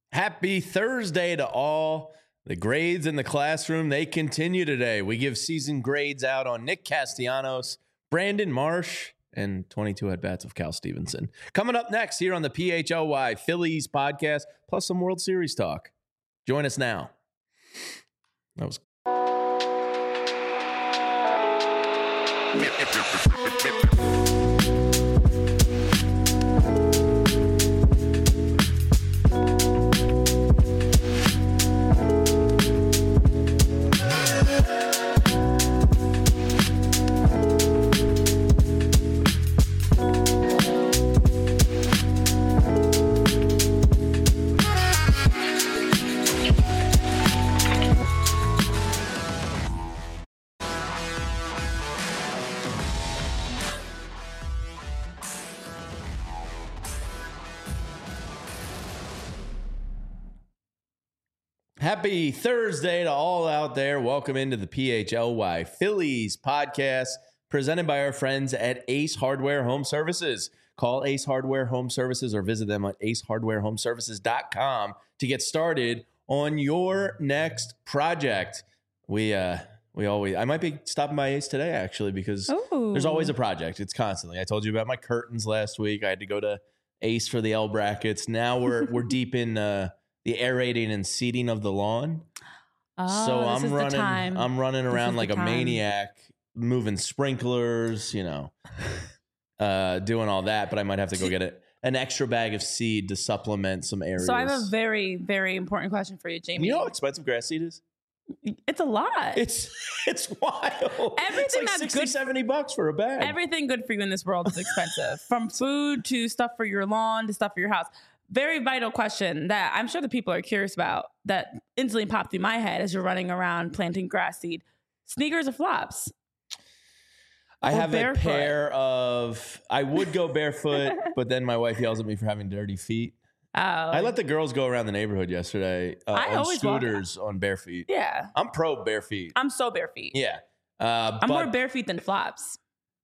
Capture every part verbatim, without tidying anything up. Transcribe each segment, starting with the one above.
Happy Thursday to all. The grades in the classroom, they continue today. We give season grades out on Nick Castellanos, Brandon Marsh, and twenty-two at-bats of Cal Stevenson. Coming up next here on the P H L Y Phillies podcast, plus some World Series talk. Join us now. That was... Happy Thursday to all out there. Welcome into the P H L Y Phillies podcast presented by our friends at Ace Hardware Home Services. Call Ace Hardware Home Services or visit them at ace hardware home services dot com to get started on your next project. We uh we always I might be stopping by Ace today actually because Ooh. There's always a project. It's constantly. I told you about my curtains last week. I had to go to Ace for the L brackets. Now we're we're deep in uh the aerating and seeding of the lawn. Oh, so this I'm is running the time. I'm running This around is like the a time. maniac, moving sprinklers, you know, uh, doing all that. But I might have to go get it, an extra bag of seed to supplement some areas. So I have a very, very important question for you, Jamie. You know how expensive grass seed is? It's a lot. It's it's wild. Everything it's like that's sixty, good- seventy bucks for a bag. Everything good for you in this world is expensive, from food to stuff for your lawn to stuff for your house. Very vital question that I'm sure the people are curious about that instantly popped through my head as you're running around planting grass seed. Sneakers or flops? I Or have barefoot? a pair of, I would go barefoot, but then my wife yells at me for having dirty feet. Oh, I let the girls go around the neighborhood yesterday uh, I on always walk- scooters on bare feet. yeah. I'm pro bare feet. I'm so bare feet. Yeah. Uh, I'm but, more bare feet than flops.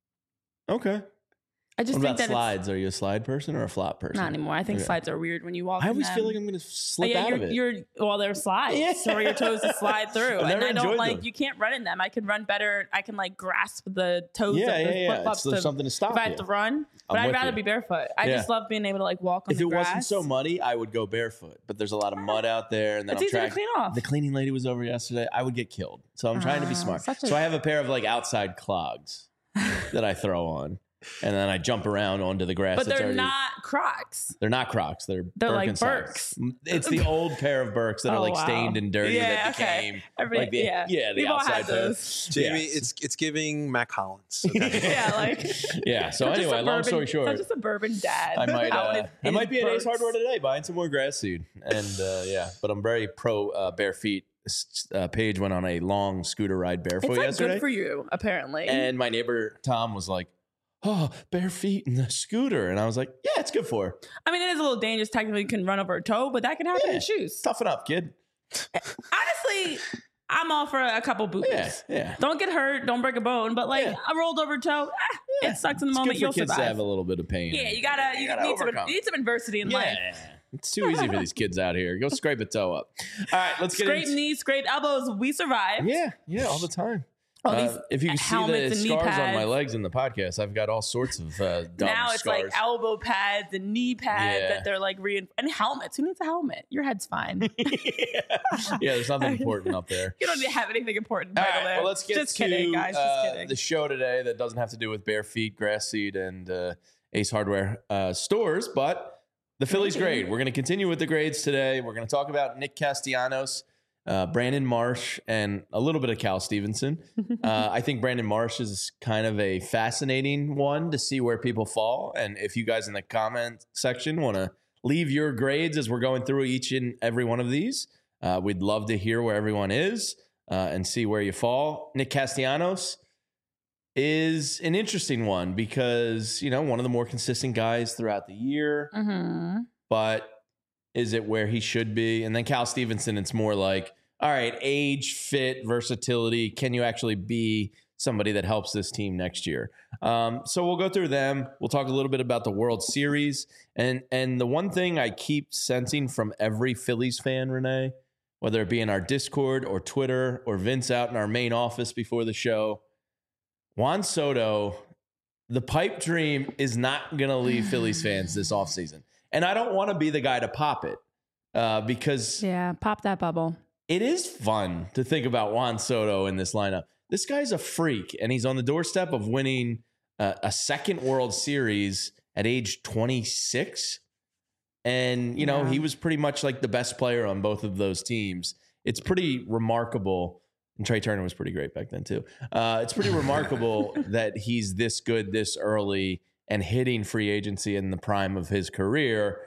Okay. I just What think about that slides? Are you a slide person or a flop person? it's not anymore. I think Okay. slides are weird when you walk. I in always them. feel like I'm going to slip Oh, yeah, out you're, of it. You're well, they're slides, Yeah. so your toes to slide through. I've And never I don't enjoyed like them. you can't run in them. I can run better. I can like grasp the toes yeah, of yeah, the yeah. flip It's, flops. there's to, something to stop if I have you. to run, but I'm I'd with rather you. be barefoot. I Yeah. just love being able to like walk on If the it grass. wasn't so muddy, I would go barefoot. But there's a lot of mud out there, and then It's I'm easy to trying. clean off. The cleaning lady was over yesterday. I would get killed, so I'm trying to be Ah, smart. such a- So I have a pair of like outside clogs that I throw on, and then I jump around onto the grass. but that's they're already, not Crocs. They're not Crocs. They're They're like Birkenstocks. Birks. It's the old pair of Birks that are Oh, like wow. stained and dirty Yeah, that okay. became Every- like the yeah. yeah the We've all had outside pair. those. Jamie, Yes. it's it's giving Mac Hollins. Okay? Yeah, like Yeah. So such a anyway, long suburban- story short, such a suburban dad. I might out uh, in- I in might be at Ace Birks. Hardware today buying some more grass seed, and uh, yeah, but I'm very pro uh, bare feet. S- Uh, Paige went on a long scooter ride barefoot It's like yesterday, good for you, apparently. and my neighbor Tom was like, "Oh, bare feet in the scooter," and I was like, "Yeah, it's good for her. I mean, it is a little dangerous. Technically, you can run over a toe, but that can happen Yeah. in shoes. Toughen up, kid." Honestly, I'm all for a couple boobies. Yeah, yeah. Don't get hurt. Don't break a bone. But like Yeah. a rolled over toe, ah, Yeah. it sucks in the It's moment. good for You'll kids survive. to have a little bit of pain. yeah, you gotta. You, gotta need some. overcome. You need some adversity in life. Yeah, it's too easy for these kids out here. Go scrape a toe up. All right, let's get Scrape into knees, scrape elbows. We survive. Yeah, yeah, all the time. All Uh, these if you can see the helmets and knee scars on my pads. legs in the podcast, I've got all sorts of uh, dumb Now it's scars. like elbow pads and knee pads Yeah. that they're like re and helmets. Who needs a helmet? Your head's fine. yeah. yeah, there's nothing important up there. You don't need to have anything important. All vital right, there. well, let's get Just to kidding, guys. uh, Just kidding. the show today that doesn't have to do with bare feet, grass seed, and uh, Ace Hardware uh, stores, but the Phillies Mhm. grade. We're going to continue with the grades today. We're going to talk about Nick Castellanos, uh, Brandon Marsh, and a little bit of Cal Stevenson. uh, I think Brandon Marsh is kind of a fascinating one to see where people fall. And if you guys in the comment section want to leave your grades as we're going through each and every one of these, uh, we'd love to hear where everyone is uh, and see where you fall. Nick Castellanos is an interesting one because, you know, one of the more consistent guys throughout the year, Mm-hmm. but is it where he should be? And then Cal Stevenson, it's more like, all right, age, fit, versatility. Can you actually be somebody that helps this team next year. Um, so we'll go through them. We'll talk a little bit about the World Series. And and the one thing I keep sensing from every Phillies fan, Renee, whether it be in our Discord or Twitter or Vince out in our main office before the show, Juan Soto, the pipe dream is not going to leave Phillies fans this offseason. And I don't want to be the guy to pop it uh, because Yeah, pop that bubble. it is fun to think about Juan Soto in this lineup. This guy's a freak, and he's on the doorstep of winning uh, a second World Series at age twenty-six. And, you know, Yeah. he was pretty much like the best player on both of those teams. It's pretty remarkable. And Trey Turner was pretty great back then, too. Uh, it's pretty remarkable that he's this good this early and hitting free agency in the prime of his career.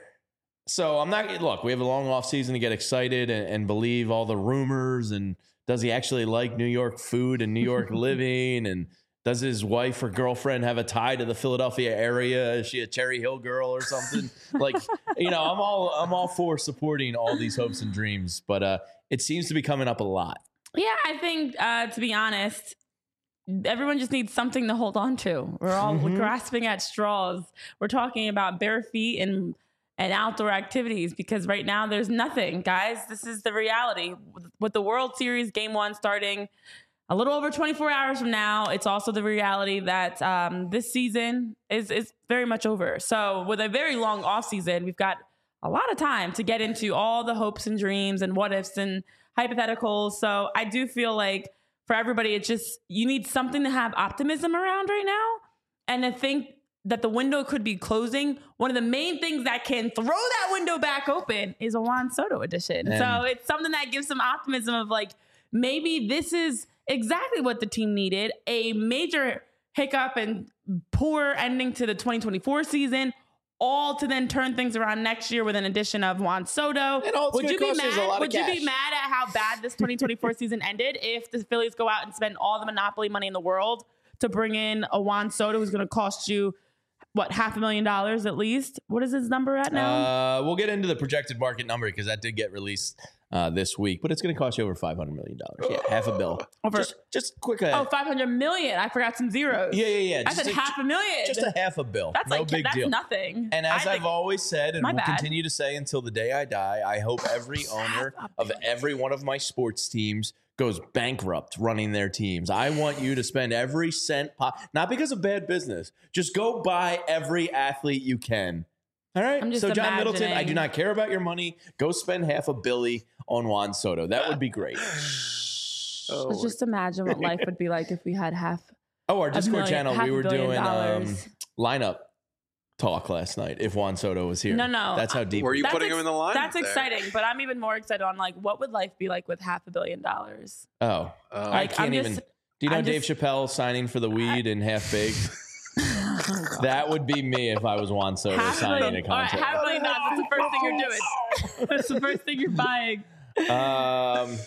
So I'm not, look, we have a long off season to get excited and, and believe all the rumors. And does he actually like New York food and New York living? And does his wife or girlfriend have a tie to the Philadelphia area? Is she a Cherry Hill girl or something? Like, you know, I'm all, I'm all for supporting all these hopes and dreams, but uh, it seems to be coming up a lot. Yeah, I think, uh, to be honest, everyone just needs something to hold on to. We're all Mhm. grasping at straws. We're talking about bare feet and and outdoor activities because right now there's nothing, guys. This is the reality. With the World Series Game One starting a little over twenty-four hours from now, it's also the reality that um, this season is is very much over. So with a very long off season, we've got a lot of time to get into all the hopes and dreams and what ifs and hypotheticals. So I do feel like for everybody, it's just you need something to have optimism around right now. And I think that the window could be closing. One of the main things that can throw that window back open is a Juan Soto edition. And- so it's something that gives some optimism of like, maybe this is exactly what the team needed. A major hiccup and poor ending to the twenty twenty-four season, all to then turn things around next year with an addition of Juan Soto. And all it's Would gonna you be cost you is a lot mad? of Would you be cash. mad at how bad this twenty twenty-four season ended if the Phillies go out and spend all the monopoly money in the world to bring in a Juan Soto who's going to cost you what, half a million dollars at least? What is his number at now? Uh, we'll get into the projected market number because that did get released uh, this week, but it's going to cost you over five hundred million dollars. Yeah, half a bill. Over- just, just quick. Uh, oh, five hundred million. I forgot some zeros. yeah, yeah, yeah. I Just said a- half a million. Just a half a bill. That's no like big that's deal. nothing. And as I I've think- always said, and My will bad. continue to say until the day I die, I hope every owner of every one of my sports teams goes bankrupt running their teams. I want you to spend every cent, po- not because of bad business. Just go buy every athlete you can. All right. I'm just So John Middleton, I do imagining- not care about your money. Go spend half a billy on Juan Soto. That would be great. Oh, Let's just imagine what life would be like if we had half. Oh, our A Discord million- channel, half we a were billion doing um, dollars. lineup talk last night if Juan Soto was here. No, no. That's how deep. were you That's putting ex- him in the line? That's exciting, but I'm even more excited on like what would life be like with half a billion dollars? Oh, Oh. I Like, can't I'm even. just- Do you know I'm Dave just- Chappelle signing for the weed and half baked? That would be me if I was Juan Soto Half a signing million. a All right, contract. half a million dollars. That's the first thing you're doing. That's the first thing you're buying. Um,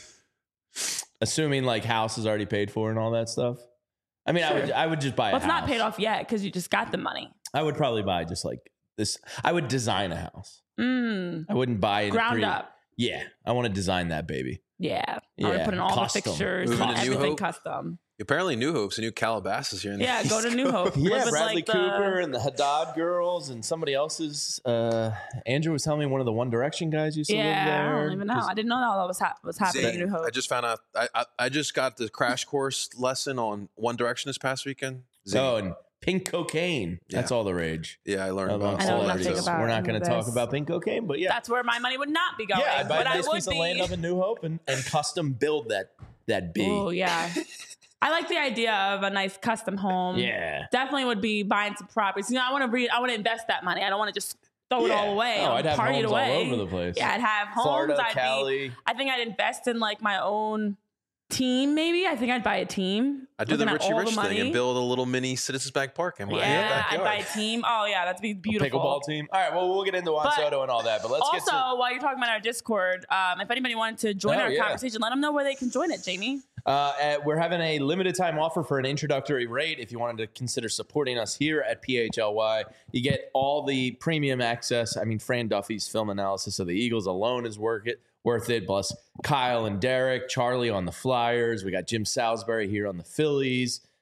assuming like house is already paid for and all that stuff. I mean, I would I would just buy Well, a it's house. not paid off yet because you just got the money. I would probably buy just like this. I would design a house. Mm, I wouldn't buy it ground up. Yeah, I want to design that baby. Yeah. I Yeah, want to put in all custom. the fixtures, Moving to New everything Hope. custom. Apparently, New Hope's a new Calabasas here in the Yeah, go to East New Hope. Yeah, Live with, Bradley like, the- Cooper and the Haddad girls and somebody else's. Uh, Andrew was telling me one of the One Direction guys used to live Yeah, there. I don't even know. I didn't know that all was, hap- was happening in Zayn. New Hope. I just found out. I, I I just got the crash course lesson on One Direction this past weekend. Zayn. Oh, and pink cocaine. That's Yeah. all the rage. yeah, I learned about Amongst I know all nothing artists. about We're not any going of to talk this. about pink cocaine, but yeah. That's where my money would not be going. yeah, I'd buy but a I nice would piece be. of land up in New Hope and, and custom build that that bee. Oh, yeah. I like the idea of a nice custom home. Yeah. Definitely would be buying some properties. You know, I want to read. I want to invest that money. I don't want to just throw it Yeah. all away. Oh, or I'd have party it homes all away. over the place. Yeah, I'd have homes. Florida, I'd Cali. be. I think I'd invest in like my own team. Maybe I think I'd buy a team. I do the Looking at Richie all Rich the thing money. and build a little mini Citizens Bank Park in my Yeah, I'd backyard. buy a team. Oh yeah, that'd be A beautiful. pickleball team. All right, well, we'll get into Juan But Soto and all that, but let's also, get to while you're talking about our Discord, um, if anybody wanted to join Oh, our yeah. conversation, let them know where they can join it, Jamie. Uh, at- we're having a limited time offer for an introductory rate. If you wanted to consider supporting us here at P H L Y, you get all the premium access. I mean, Fran Duffy's film analysis of the Eagles alone is worth it. Worth it. Plus Kyle and Derek, Charlie on the Flyers. We got Jim Salisbury here on the Phillies.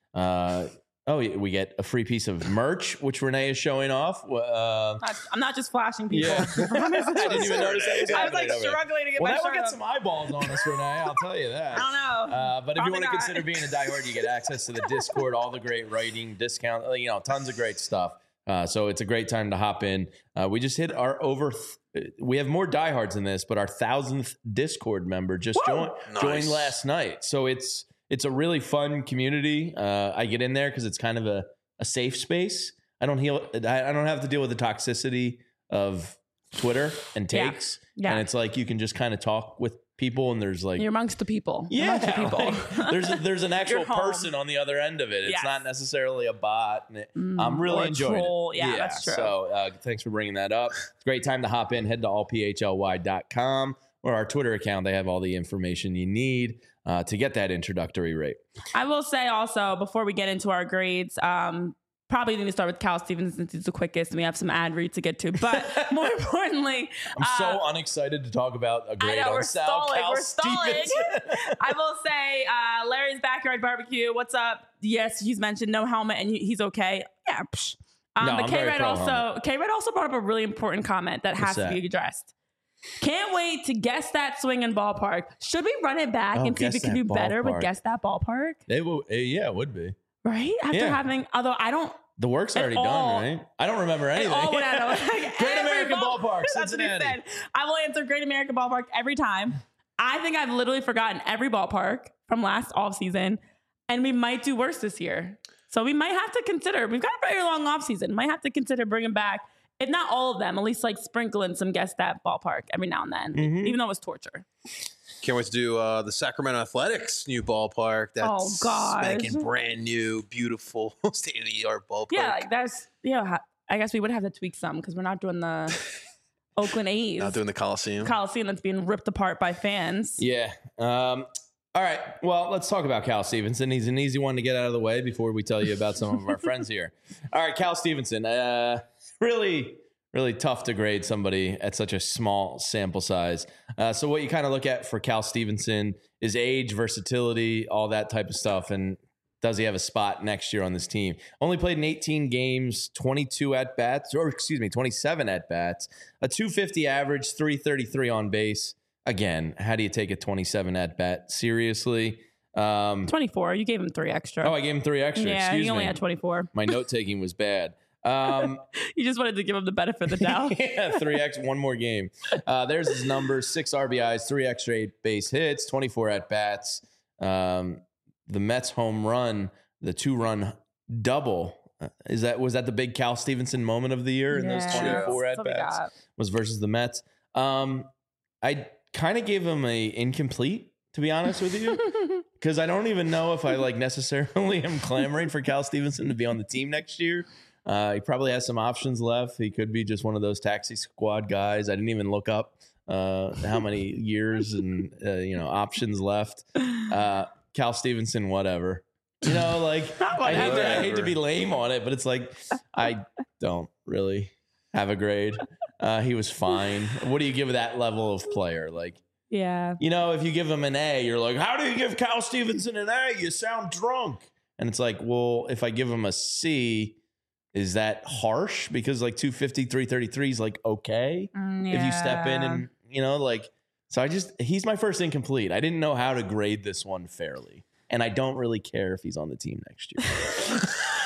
Uh, oh, we get a free piece of merch, which Renee is showing off. Uh, I'm not just flashing people. yeah. I didn't even notice that was I was like happening over there. struggling to get Well, my that will shirt get up. some eyeballs on us, Renee. I'll tell you that. I don't know. Uh, but if Probably you want to not. consider being a diehard, you get access to the Discord, all the great writing, discount, you know, tons of great stuff. Uh, so it's a great time to hop in. Uh, we just hit our over. Th- we have more diehards in this, but our thousandth Discord member just joined Nice. joined last night. So it's it's a really fun community. Uh, I get in there because it's kind of a, a safe space. I don't heal. I I don't have to deal with the toxicity of Twitter and Yeah. takes. Yeah. And it's like you can just kind of talk with people, and there's like You're amongst the people. You're yeah, amongst the people. like, there's a, there's an actual You're home. person on the other end of it. It's Yes. not necessarily a bot. And it- Mm, I'm really or a enjoying troll. it. Yeah, that's true. So uh, thanks for bringing that up. It's a great time to hop in. Head to all p h l y dot com or our Twitter account. They have all the information you need uh, to get that introductory rate. I will say also before we get into our grades, um, probably need to start with Cal Stevens since he's the quickest and we have some ad read to get to. But more importantly, I'm so uh, unexcited to talk about a I grade know, on we're Sal stalling. Cal We're stalling. Stevenson. I will say, uh, Larry's Backyard Barbecue. What's up? Yes, he's mentioned no helmet and he- he's okay. Yeah. Psh. Um, No, but I'm K very Red pro also helmet. K Red also brought up a really important comment that has What's to that? be addressed. Can't wait to guess that swing and ballpark. Should we run it back Oh, and see if guess we can that do better with ballpark. guess that ballpark? It will, eh, yeah, it would be. Right? After Yeah. having, although I don't. The work's It already all- done, right? I don't remember It anything. all went out of like, Great every American ball- Ballpark, That's what he Cincinnati. said. I will answer Great American Ballpark every time. I think I've literally forgotten every ballpark from last offseason, and we might do worse this year. So we might have to consider, we've got a very long offseason, might have to consider bringing back, if not all of them, at least like sprinkling some guess that ballpark every now and then, Mhm. even though it was torture. Can't wait to do uh, the Sacramento Athletics new ballpark. That's Oh, gosh. spanking brand new, beautiful, state of the art ballpark. Yeah, like that's, yeah, I guess we would have to tweak some because we're not doing the Oakland A's Not doing the Coliseum. Coliseum that's being ripped apart by fans. Yeah. Um, all right. Well, let's talk about Cal Stevenson. He's an easy one to get out of the way before we tell you about some of our friends here. All right, Cal Stevenson. Uh, really, really tough to grade somebody at such a small sample size. Uh, so what you kind of look at for Cal Stevenson is age, versatility, all that type of stuff. And does he have a spot next year on this team? Only played in eighteen games, twenty-two at-bats, or excuse me, twenty-seven at-bats, a two fifty average, three thirty-three on base. Again, how do you take a twenty-seven at-bat seriously? Um, twenty-four. You gave him three extra. oh, I gave him three extra. yeah, Excuse you only me. had twenty-four. My note-taking was bad. Um, You just wanted to give him the benefit of the doubt. yeah, three X, one more game. Uh, there's his numbers: six R B Is, three extra eight base hits, twenty-four at bats. Um, the Mets home run, the two-run double. Uh, Is that was that the big Cal Stevenson moment of the year in those Yeah, twenty-four that's at what we bats? got. Was versus the Mets. Um, I kind of gave him a incomplete, to be honest with you, because I don't even know if I like necessarily am clamoring for Cal Stevenson to be on the team next year. Uh, he probably has some options left. He could be just one of those taxi squad guys. I didn't even look up uh, how many years and uh, you know options left. Uh, Cal Stevenson, whatever. You know, like I hate, to, I hate to be lame on it, but it's like I don't really have a grade. Uh, he was fine. What do you give that level of player? Like, Yeah. you know, if you give him an A, you're like, how do you give Cal Stevenson an A? You sound drunk. And it's like, well, if I give him a C, is that harsh? Because like two fifty, three thirty-three is like okay Mm, if you step in yeah. and, you know, like, so I just, he's my first incomplete. I didn't know how to grade this one fairly. And I don't really care if he's on the team next year.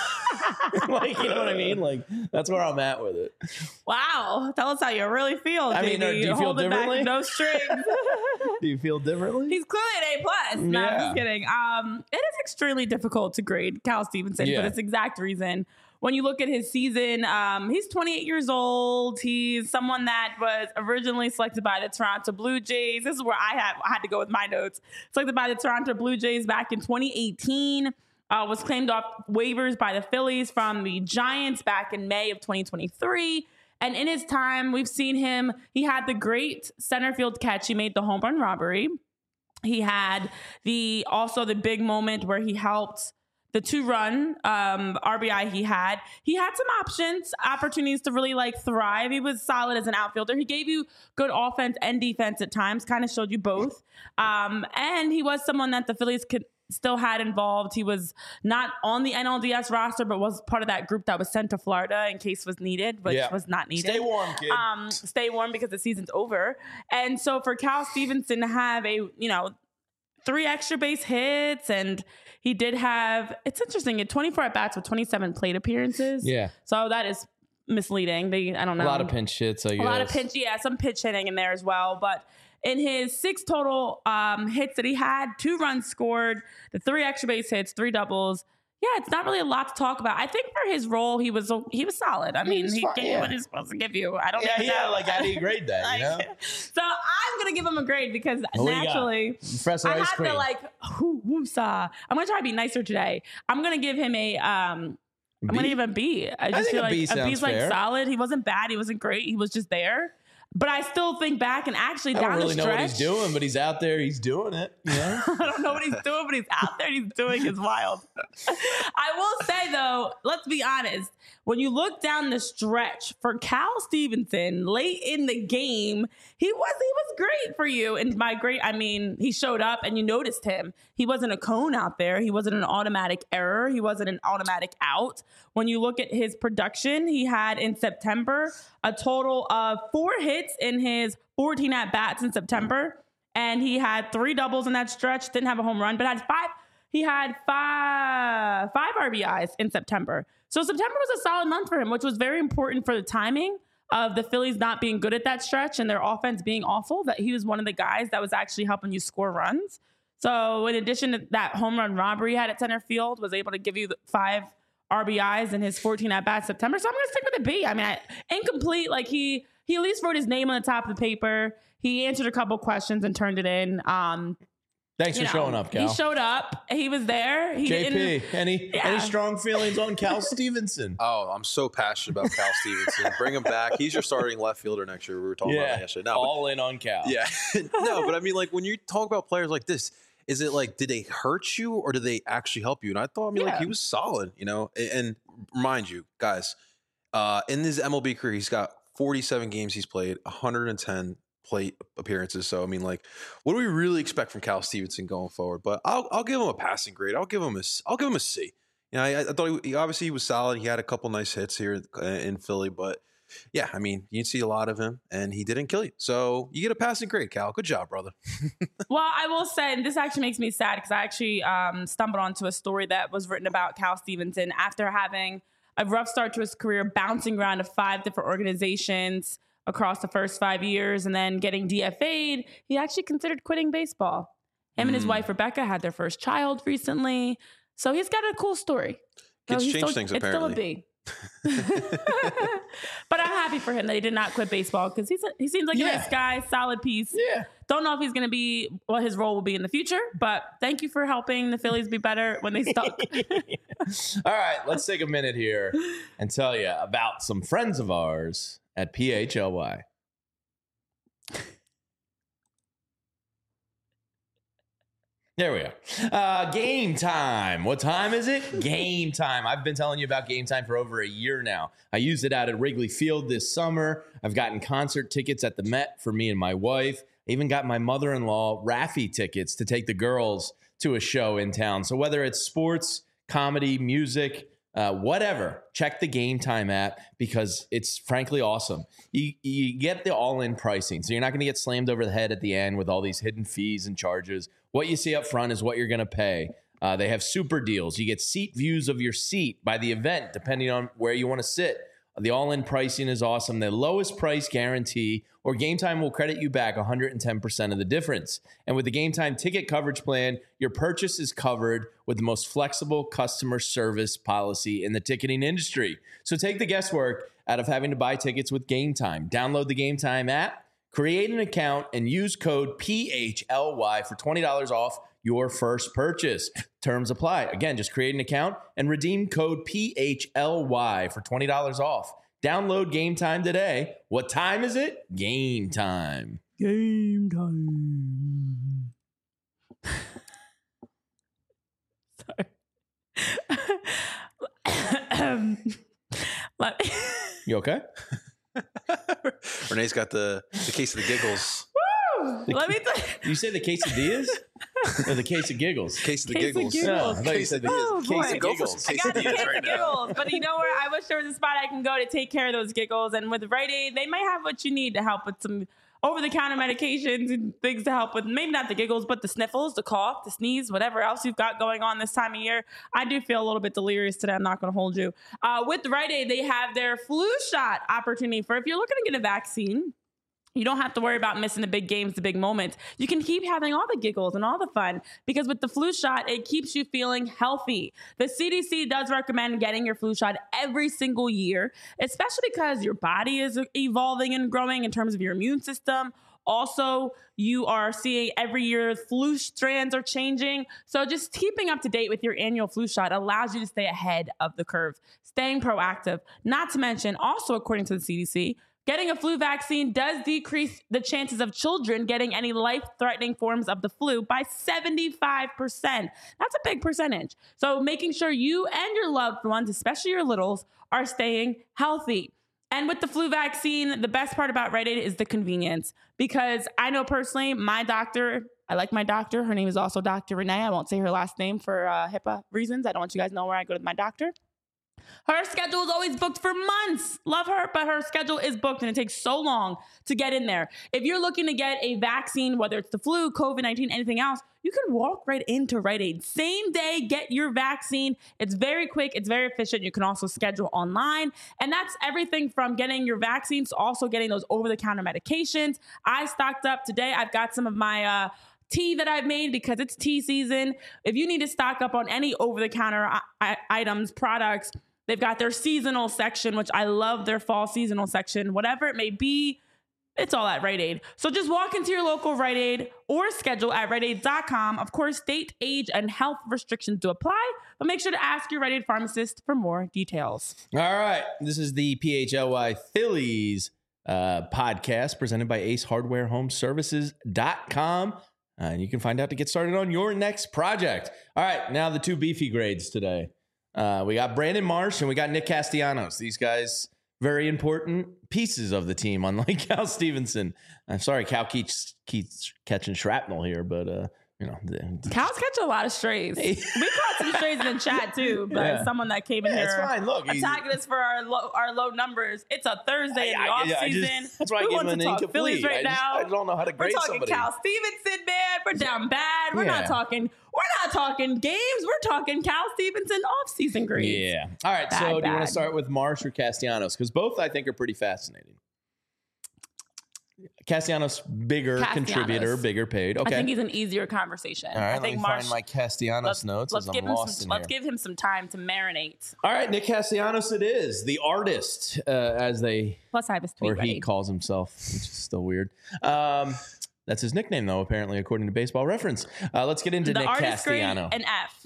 Like, you know what I mean? Like, that's where I'm at with it. Wow. Tell us how you really feel. I mean, J D. uh, do you feel Holding back differently? no strings. Do you feel differently? He's clearly an A plus. No, I'm Yeah. just kidding. Um, it is extremely difficult to grade Cal Stevenson Yeah. for this exact reason. When you look at his season, um, he's twenty-eight years old. He's someone that was originally selected by the Toronto Blue Jays. This is where I have I had to go with my notes. Selected by the Toronto Blue Jays back in twenty eighteen. Uh, was claimed off waivers by the Phillies from the Giants back in May of twenty twenty-three. And in his time, we've seen him. He had the great center field catch. He made the home run robbery. He had the also the big moment where he helped the two run um, R B I he had. He had some options, opportunities to really like thrive. He was solid as an outfielder. He gave you good offense and defense at times, kind of showed you both. Um, and he was someone that the Phillies could still had involved. He was not on the N L D S roster, but was part of that group that was sent to Florida in case was needed, which Yeah. was not needed. Stay warm, kid. Um, stay warm because the season's over. And so for Cal Stevenson to have a, you know, three extra base hits, and he did have, it's interesting, he had twenty-four at bats with twenty-seven plate appearances. Yeah. So that is misleading. They, I don't know. A lot of pinch hits, I guess. A lot of pinch, yeah, some pitch hitting in there as well. But in his six total um, hits that he had, two runs scored, the three extra base hits, three doubles. Yeah, it's not really a lot to talk about. I think for his role, he was he was solid. I mean, was he fine, gave yeah. what he's supposed to give you. I don't Yeah, even yeah. know. Like, how do you grade that? You know, Like, so I'm gonna give him a grade because What do you got? naturally Professor I Ice have Cream. to like whoo, woosah. I'm gonna try to be nicer today. I'm gonna give him a um. I'm B? gonna give him a B. I just think feel a like B a sounds B's like fair. solid. He wasn't bad. He wasn't great. He was just there. But I still think back and actually I down don't really the know stretch. what he's doing, but he's out there. He's doing it. You know? I don't know what he's doing, but he's out there. He's doing is wild. I will say though, let's be honest. When you look down the stretch for Cal Stevenson late in the game, he was he was great for you. And by great, I mean he showed up and you noticed him. He wasn't a cone out there. He wasn't an automatic error. He wasn't an automatic out. When you look at his production, he had in September a total of four hits in his fourteen at bats in September. And he had three doubles in that stretch, didn't have a home run, but had five. He had five, five R B Is in September. So September was a solid month for him, which was very important for the timing of the Phillies not being good at that stretch and their offense being awful, that he was one of the guys that was actually helping you score runs. So in addition to that home run robbery he had at center field, was able to give you the five R B Is in his fourteen at-bats September. So I'm going to stick with a B. I mean, I, incomplete, like he he at least wrote his name on the top of the paper. He answered a couple questions and turned it in. Um, Thanks you for know, showing up, Cal. He showed up. He was there. He J P, didn't. any Yeah. any strong feelings on Cal Stevenson? Oh, I'm so passionate about Cal Stevenson. Bring him back. He's your starting left fielder next year. We were talking about that yesterday. No, but- all in on Cal. yeah. No, but I mean, like when you talk about players like this, is it like, did they hurt you or did they actually help you? And I thought, I mean, like Yeah. he was solid, you know. And, and remind you, guys, uh, in his M L B career, he's got forty-seven games he's played, one hundred ten plate appearances. So I mean, like, what do we really expect from Cal Stevenson going forward? But I'll I'll give him a passing grade. I'll give him a I'll give him a C. You know, I, I thought he, he obviously he was solid. He had a couple nice hits here in Philly, but yeah, I mean, you see a lot of him, and he didn't kill you. So you get a passing grade, Cal. Good job, brother. Well, I will say, and this actually makes me sad because I actually um, stumbled onto a story that was written about Cal Stevenson after having a rough start to his career, bouncing around to five different organizations across the first five years and then getting D F A'd. He actually considered quitting baseball. Him and his Mm. wife, Rebecca, had their first child recently. So he's got a cool story. So Kids he's change still, things, it's apparently. still a B. But I'm happy for him that he did not quit baseball because he's a, he seems like Yeah. a nice guy, solid piece. Yeah. Don't know if he's going to be what his role will be in the future, but thank you for helping the Phillies be better when they stuck. All right, let's take a minute here and tell you about some friends of ours at P H L Y. There we are. Uh, game time. What time is it? Game time. I've been telling you about game time for over a year now. I used it out at Wrigley Field this summer. I've gotten concert tickets at the Met for me and my wife. I even got my mother-in-law Raffy tickets to take the girls to a show in town. So whether it's sports, comedy, music, uh, whatever, check the Game Time app because it's frankly awesome. You, you get the all-in pricing, so you're not going to get slammed over the head at the end with all these hidden fees and charges. What you see up front is what you're going to pay. Uh, they have super deals. You get seat views of your seat by the event, depending on where you want to sit. The all-in pricing is awesome. The lowest price guarantee, or Game Time will credit you back one hundred ten percent of the difference. And with the Game Time ticket coverage plan, your purchase is covered with the most flexible customer service policy in the ticketing industry. So take the guesswork out of having to buy tickets with Game Time. Download the Game Time app, create an account, and use code P H L Y for twenty dollars off your first purchase. Terms apply. Again, just create an account and redeem code P H L Y for twenty dollars off. Download Game Time today. What time is it? Game time. Game time. Sorry. um, let me- You okay? Renee's got the, the case of the giggles. Let me tell You say the quesadillas? Or the case of giggles. Case of the Case of giggles. giggles. Yeah, I thought you said the Oh, case boy. of Go for giggles. some I got the quesadillas case right of now. giggles, but you know where? I wish there was a spot I can go to take care of those giggles. And with Rite Aid, they might have what you need to help with some over-the-counter medications and things to help with maybe not the giggles, but the sniffles, the cough, the sneeze, whatever else you've got going on this time of year. I do feel a little bit delirious today. I'm not going to hold you. Uh, with Rite Aid, they have their flu shot opportunity for if you're looking to get a vaccine. You don't have to worry about missing the big games, the big moments. You can keep having all the giggles and all the fun because with the flu shot, it keeps you feeling healthy. The C D C does recommend getting your flu shot every single year, especially because your body is evolving and growing in terms of your immune system. Also, you are seeing every year flu strands are changing. So just keeping up to date with your annual flu shot allows you to stay ahead of the curve, staying proactive. Not to mention, also according to the C D C, getting a flu vaccine does decrease the chances of children getting any life-threatening forms of the flu by seventy-five percent. That's a big percentage. So making sure you and your loved ones, especially your littles, are staying healthy. And with the flu vaccine, the best part about Rite Aid is the convenience. Because I know personally, my doctor, I like my doctor. Her name is also Doctor Renee. I won't say her last name for uh, HIPAA reasons. I don't want you guys to know where I go to my doctor. Her schedule is always booked for months. Love her, but her schedule is booked and it takes so long to get in there. If you're looking to get a vaccine, whether it's the flu, COVID nineteen, anything else, you can walk right into Rite Aid. Same day, get your vaccine. It's very quick. It's very efficient. You can also schedule online. And that's everything from getting your vaccines to also getting those over-the-counter medications. I stocked up today. I've got some of my... Uh, tea that I've made because it's tea season. If you need to stock up on any over-the-counter I- I- items, products, they've got their seasonal section, which I love their fall seasonal section. Whatever it may be, it's all at Rite Aid. So just walk into your local Rite Aid or schedule at rite aid dot com. Of course, state, age, and health restrictions do apply, but make sure to ask your Rite Aid pharmacist for more details. All right. This is the P H L Y Phillies uh, podcast presented by ace hardware home services dot com. Uh, and you can find out to get started on your next project. All right, now the two beefy grades today. Uh, we got Brandon Marsh and we got Nick Castellanos. These guys, very important pieces of the team, unlike Cal Stevenson. I'm sorry, Cal keeps, keeps catching shrapnel here, but uh, you know, the, Cal's catching a lot of strays. We caught some strays in the chat too, but Yeah. someone that came in Yeah, here it's fine. Look, he's- attacking us for our low, our low numbers. It's a Thursday in the I- off I- I just- season. that's why I we give want him to an talk Phillies incomplete. right I just- now. I don't know how to We're grade talking somebody. Cal Stevenson, man. We're down bad. We're Yeah. not talking. We're not talking games. We're talking Cal Stevenson off season grades. Yeah. All right. Bad, so do you want bad. to start with Marsh or Castellanos? Because both I think are pretty fascinating. Castellanos, bigger Castellanos. contributor, bigger paid. Okay. I think he's an easier conversation. All right. I let think me Marsh. find my Castellanos let's notes let's as give I'm him lost some. in Let's here. give him some time to marinate. All right, Nick Castellanos it is. The artist, uh, as they, Plus, I have his tweet or he ready. calls himself, which is still weird. Um, that's his nickname, though, apparently, according to Baseball Reference. Uh, let's get into the Nick artist grade Castellano. an F.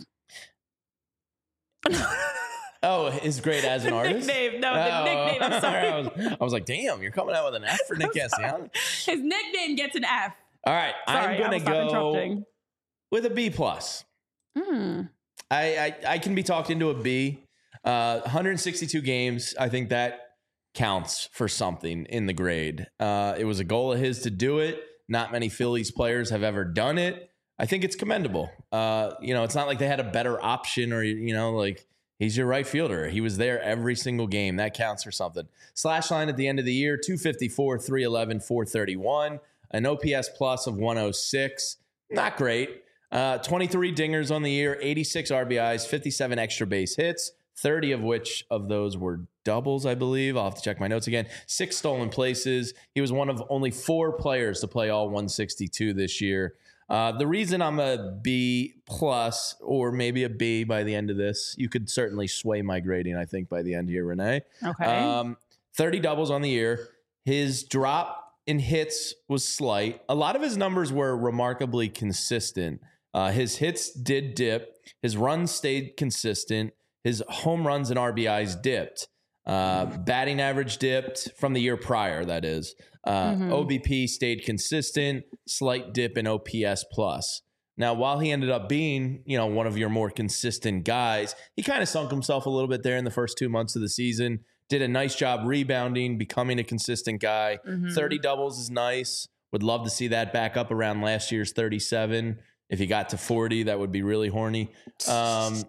Oh, his grade as an artist? Nickname. No, the Oh. nickname. I'm sorry. I, was, I was like, damn, you're coming out with an F for Nick Castellanos? His nickname gets an F. All right, Sorry, I'm I going will to stop go interrupting. with a B plus. Hmm. I, I I can be talked into a B. Uh, one hundred sixty-two games. I think that counts for something in the grade. Uh, it was a goal of his to do it. Not many Phillies players have ever done it. I think it's commendable. Uh, you know, it's not like they had a better option or, you know, like he's your right fielder. He was there every single game. That counts for something. Slash line at the end of the year, two fifty-four, three eleven, four thirty-one. An O P S plus of one oh six. Not great. Uh, twenty-three dingers on the year, eighty-six R B Is, fifty-seven extra base hits, thirty of which of those were doubles, I believe. I'll have to check my notes again. Six stolen places. He was one of only four players to play all one sixty-two this year. Uh, the reason I'm a B plus or maybe a B by the end of this, you could certainly sway my grading, I think, by the end here, Renee. Okay. Um, thirty doubles on the year. His drop in hits was slight. A lot of his numbers were remarkably consistent. Uh, his hits did dip. His runs stayed consistent. His home runs and R B Is dipped. Uh, batting average dipped from the year prior, that is. Uh, Mhm. O B P stayed consistent. Slight dip in O P S plus. Now, while he ended up being, you know, one of your more consistent guys, he kind of sunk himself a little bit there in the first two months of the season. Did a nice job rebounding, becoming a consistent guy. Mhm. thirty doubles is nice. Would love to see that back up around last year's thirty-seven. If he got to forty, that would be really horny. Um,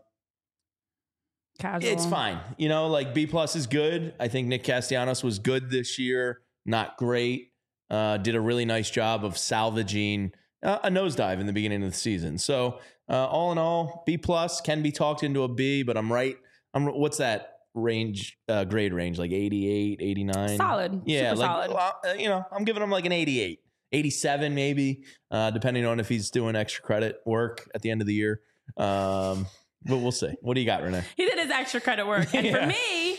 Casual. It's fine. You know, like B plus is good. I think Nick Castellanos was good this year. Not great. Uh, did a really nice job of salvaging uh, a nosedive in the beginning of the season. So uh, all in all, B plus can be talked into a B, but I'm right. I'm what's that range, uh, grade range? Like eighty-eight, eighty-nine? Solid. Yeah. Super like, solid. well, uh, you know, I'm giving him like an eighty-eight, eighty-seven maybe, uh, depending on if he's doing extra credit work at the end of the year. Um, But we'll see. What do you got, Renee? He did his extra credit work. And Yeah. for me,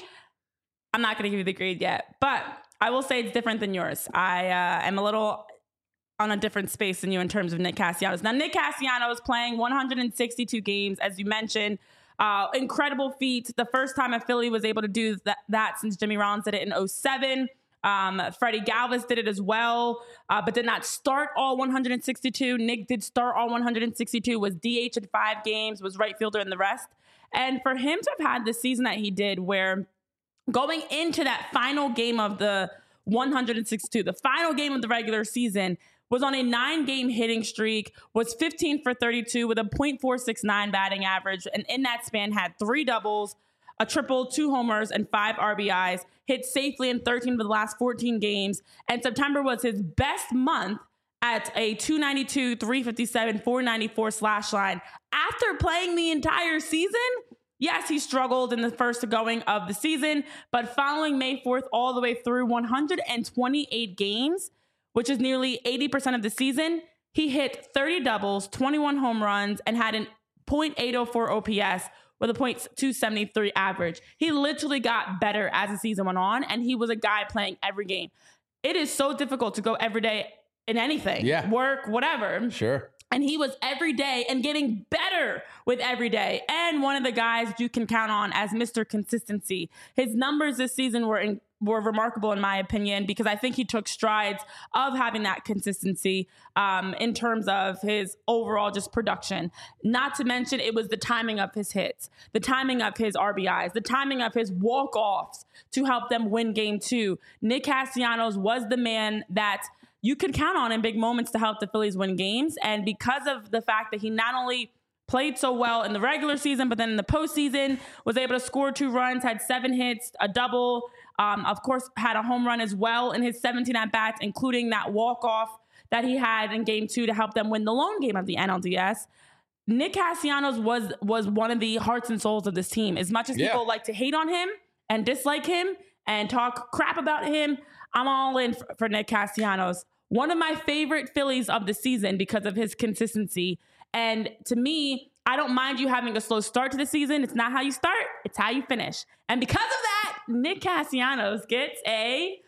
I'm not going to give you the grade yet, but I will say it's different than yours. I uh, am a little on a different space than you in terms of Nick Castellanos. Now, Nick Castellanos playing one hundred sixty-two games, as you mentioned. Uh, incredible feat. The first time a Philly was able to do that, that since Jimmy Rollins did it in oh seven. Um, Freddie Galvis did it as well, uh, but did not start all one hundred sixty-two. Nick did start all one hundred sixty-two, was D H in five games, was right fielder in the rest. And for him to have had the season that he did, where going into that final game of the one hundred sixty-two, the final game of the regular season, was on a nine-game hitting streak, was fifteen for thirty-two with a point four six nine batting average, and in that span had three doubles, a triple, two homers, and five R B Is, hit safely in thirteen of the last fourteen games, and September was his best month at a two ninety-two, three fifty-seven, four ninety-four slash line. After playing the entire season, yes, he struggled in the first going of the season, but following May fourth all the way through one hundred twenty-eight games, which is nearly eighty percent of the season, he hit thirty doubles, twenty-one home runs, and had an point eight oh four O P S, with a point two seventy-three average. He literally got better as the season went on, and he was a guy playing every game. It is so difficult to go every day in anything, Yeah. work, whatever. Sure. And he was every day and getting better with every day. And one of the guys you can count on as Mister Consistency. His numbers this season were in, were remarkable in my opinion, because I think he took strides of having that consistency um, in terms of his overall just production. Not to mention it was the timing of his hits, the timing of his R B Is, the timing of his walk-offs to help them win game two. Nick Castellanos was the man that you could count on in big moments to help the Phillies win games. And because of the fact that he not only played so well in the regular season, but then in the postseason was able to score two runs, had seven hits, a double, um, of course, had a home run as well in his seventeen at-bats, including that walk-off that he had in game two to help them win the lone game of the N L D S. Nick Castellanos was was one of the hearts and souls of this team. As much as Yeah. people like to hate on him and dislike him and talk crap about him, I'm all in for, for Nick Castellanos. One of my favorite Phillies of the season because of his consistency. And to me, I don't mind you having a slow start to the season. It's not how you start, it's how you finish. And because of that, Nick Castellanos gets a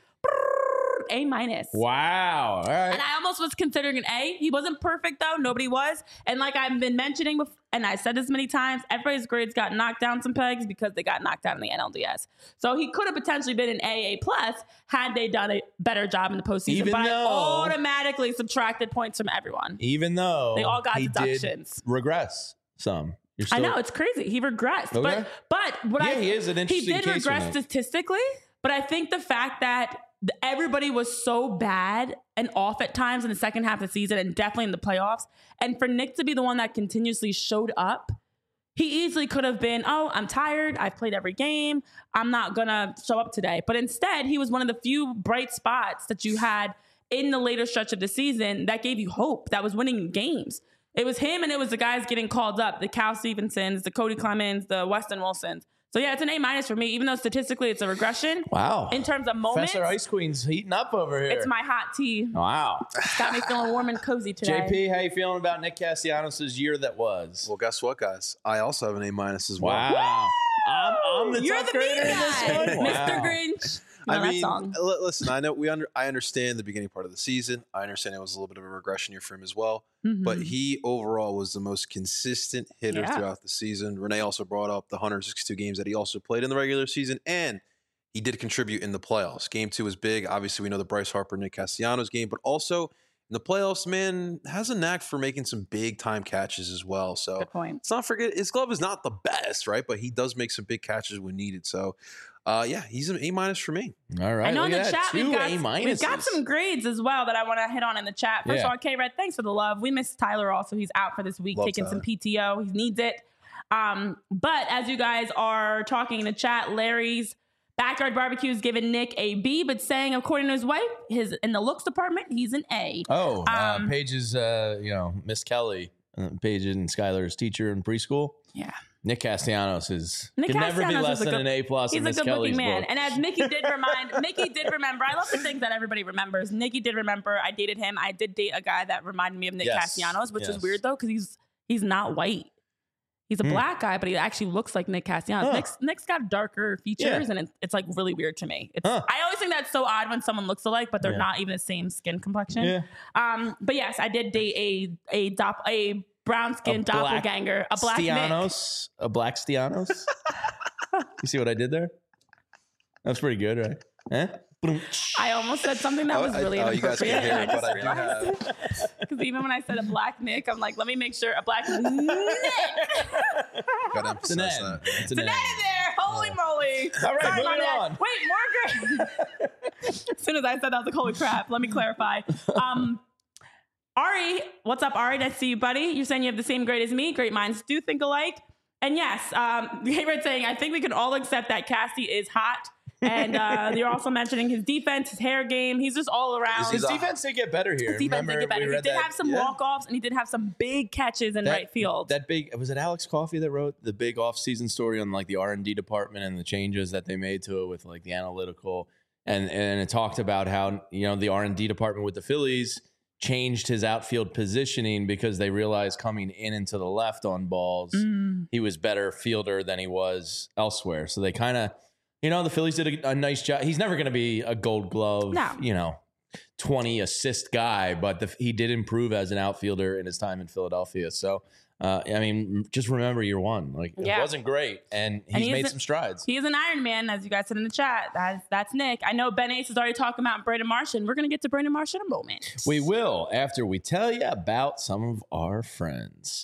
A minus. Wow. All right. And I almost was considering an A. He wasn't perfect though. Nobody was. And like I've been mentioning before, and I said this many times, everybody's grades got knocked down some pegs because they got knocked out in the N L D S. So he could have potentially been an A, A plus had they done a better job in the postseason. Even but though- I automatically subtracted points from everyone. Even though They all got he deductions. did regress some. You're I still, know, it's crazy. He regressed. Okay. But but what Yeah, I he is an interesting He did case for regress me. statistically, but I think the fact that th- everybody was so bad and off at times in the second half of the season and definitely in the playoffs, and for Nick to be the one that continuously showed up, he easily could have been, oh, I'm tired. I've played every game. I'm not going to show up today. But instead, he was one of the few bright spots that you had in the later stretch of the season that gave you hope, that was winning games. It was him and it was the guys getting called up, the Cal Stevensons, the Cody Clemens, the Weston Wilsons. So yeah, it's an A minus for me, even though statistically it's a regression. Wow. In terms of moments, Professor Ice Queen's heating up over here. it's my hot tea. Wow. It's got me feeling warm and cozy today. J P, how you feeling about Nick Castellanos' year that was? Well, guess what, guys? I also have an A minus as well. Wow. I'm, I'm the You're tough the mean grader in this guy, one? Mister Wow. Grinch. You know I that mean, song. li- listen, I know we under, I understand the beginning part of the season. I understand it was a little bit of a regression year for him as well. But Mhm. he overall was the most consistent hitter Yeah. throughout the season. Renee also brought up the one hundred sixty-two games that he also played in the regular season, and he did contribute in the playoffs. Game two was big. Obviously, we know the Bryce Harper, Nick Castellanos game, but also In the playoffs, man, has a knack for making some big time catches as well. So Good point. let's not forget his glove is not the best, right? But he does make some big catches when needed. So, uh, yeah, he's an A minus for me. All right. I know in look the at chat that. we've Two got, A we've got minuses. some grades as well that I want to hit on in the chat. First Yeah. of all, K-Red, thanks for the love. We missed Tyler also. He's out for this week, Love taking some Tyler. P T O. He needs it. Um, but as you guys are talking in the chat, Larry's Backyard Barbecue is giving Nick a B, but saying, according to his wife, his in the looks department, he's an A. Oh, uh, Um, Paige's, uh, you know, Miss Kelly, uh, Paige and Skylar's teacher in preschool. Yeah. Nick Castellanos is Nick can never be Castellanos less is a than good- an A plus in He's a Miss good Kelly's looking man. book. And as Mickey did remind, Mickey did remember, I love the things that everybody remembers. Mickey did remember, I dated him. I did date a guy that reminded me of Nick Yes. Castellanos, which Yes. is weird though, because he's he's not white. He's a Hmm. black guy, but he actually looks like Nick Castellanos. Huh. Nick's, Nick's got darker features, Yeah. and it's, it's like really weird to me. It's, Huh. I always think that's so odd when someone looks alike, but they're Yeah. not even the same skin complexion. Yeah. Um, but yes, I did date a a dop, a brown skin A black doppelganger, a black Nick. Stianos, a black Stianos. You see what I did there? That's pretty good, right? Eh? I almost said something that Oh, was I- really oh, you guys inappropriate. can't hear and it, I but I just do realized because even when I said a black Nick, I'm like, let me make sure a black Nick. Gotta It's an emphasize N. that. It's an The N. net in there. Holy moly. All right, Sorry, moving Mom and Dad. on. Wait, more grades. As soon as I said that, I was like, holy crap. Let me clarify. Um, Ari, what's up, Ari? Nice to see you, buddy. You're saying you have the same grade as me. Great minds do think alike. And yes, um, Gabriel saying, I think we can all accept that Cassie is hot. And uh, you're also mentioning his defense, his hair game. He's just all around. Is His He's a- defense did get better here. His defense did Remember, get better. we He read did that- have some yeah. walk-offs, and he did have some big catches in That- right field. That big was it Alex Coffey that wrote the big off-season story on like the R and D department and the changes that they made to it with like the analytical and and it talked about how you know the R and D department with the Phillies changed his outfield positioning because they realized coming in and to the left on balls Mm. he was better fielder than he was elsewhere. So they kind of you know the Phillies did a, a nice job. He's never going to be a Gold Glove, No. you know, twenty assist guy, but the, he did improve as an outfielder in his time in Philadelphia. So, uh, I mean, just remember year one. Like, Yeah. it wasn't great, and he's And he made isn't- some strides. He is an Iron Man, as you guys said in the chat. That's, that's Nick. I know Ben Ace is already talking about Brandon Marsh, and we're going to get to Brandon Marsh in a moment. We will after we tell you about some of our friends.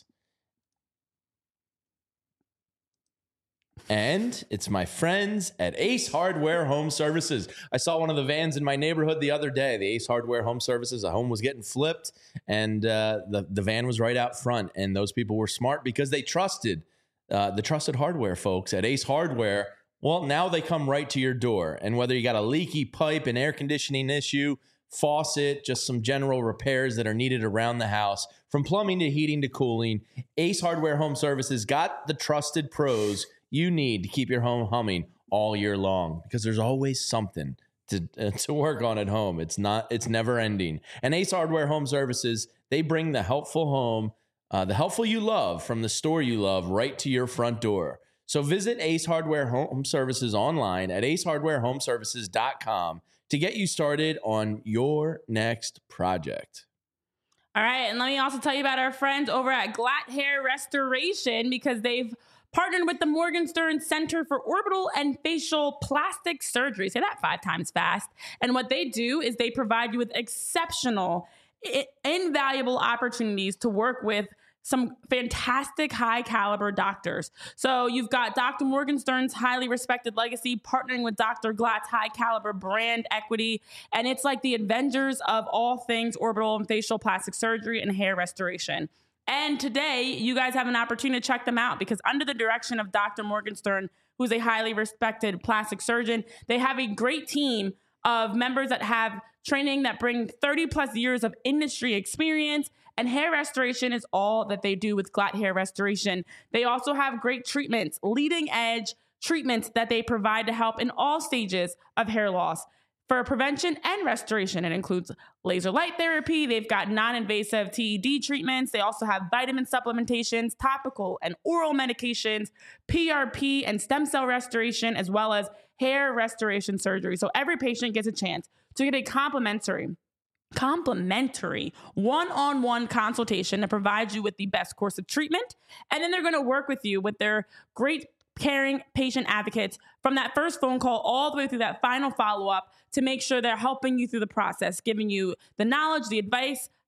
And it's my friends at Ace Hardware Home Services. I saw one of the vans in my neighborhood the other day. The Ace Hardware Home Services, a home was getting flipped, and uh, the, the van was right out front. And those people were smart because they trusted uh, the trusted hardware folks at Ace Hardware. Well, now they come right to your door. And whether you got a leaky pipe, an air conditioning issue, faucet, just some general repairs that are needed around the house, from plumbing to heating to cooling, Ace Hardware Home Services got the trusted pros you need to keep your home humming all year long, because there's always something to uh, to work on at home. It's not it's never ending. And Ace Hardware Home Services, they bring the helpful home, uh, the helpful you love from the store you love right to your front door. So visit Ace Hardware Home Services online at ace hardware home services dot com to get you started on your next project. All right, and let me also tell you about our friends over at Glatt Hair Restoration, because they've partnered with the Morgenstern Center for Orbital and Facial Plastic Surgery. Say that five times fast. And what they do is they provide you with exceptional, i- invaluable opportunities to work with some fantastic high caliber doctors. So you've got Doctor Morgenstern's highly respected legacy partnering with Doctor Glatt's high caliber brand equity. And it's like the Avengers of all things orbital and facial plastic surgery and hair restoration. And today, you guys have an opportunity to check them out, because under the direction of Doctor Morgenstern, who's a highly respected plastic surgeon, they have a great team of members that have training that bring thirty plus years of industry experience, and hair restoration is all that they do with Glatt Hair Restoration. They also have great treatments, leading edge treatments that they provide to help in all stages of hair loss. For prevention and restoration, it includes laser light therapy. They've got non-invasive T E D treatments. They also have vitamin supplementations, topical and oral medications, P R P and stem cell restoration, as well as hair restoration surgery. So every patient gets a chance to get a complimentary complimentary one-on-one consultation that provides you with the best course of treatment. And then they're going to work with you with their great caring patient advocates from that first phone call all the way through that final follow-up to make sure they're helping you through the process, giving you the knowledge, the advice,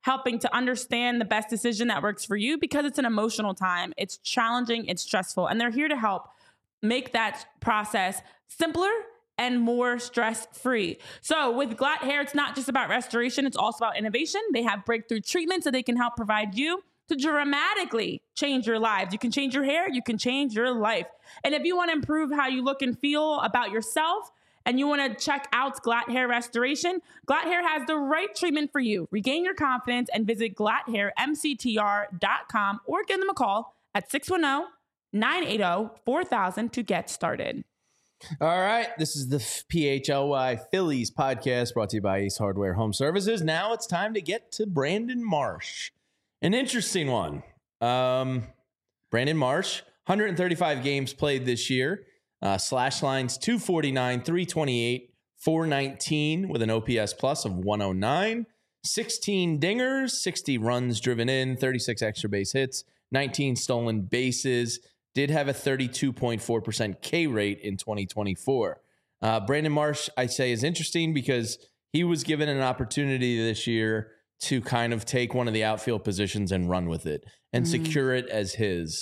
helping to understand the best decision that works for you, because it's an emotional time. It's challenging, it's stressful, and they're here to help make that process simpler and more stress-free. So with Glatt Hair, it's not just about restoration, it's also about innovation. They have breakthrough treatments that they can help provide you to dramatically change your lives. You can change your hair, you can change your life. And if you want to improve how you look and feel about yourself, and you want to check out Glatt Hair Restoration, Glatt Hair has the right treatment for you. Regain your confidence and visit glatt hair m c t r dot com or give them a call at six one zero, nine eight zero, four thousand to get started. All right, this is the P H L Y Phillies podcast brought to you by Ace Hardware Home Services. Now it's time to get to Brandon Marsh. An interesting one. Um, Brandon Marsh, one hundred thirty-five games played this year. Uh, slash lines two forty-nine, three twenty-eight, four nineteen with an O P S plus of one oh nine. sixteen dingers, sixty runs driven in, thirty-six extra base hits, nineteen stolen bases. Did have a thirty-two point four percent K rate in twenty twenty-four. Uh, Brandon Marsh, I say, is interesting because he was given an opportunity this year to kind of take one of the outfield positions and run with it and mm. secure it as his.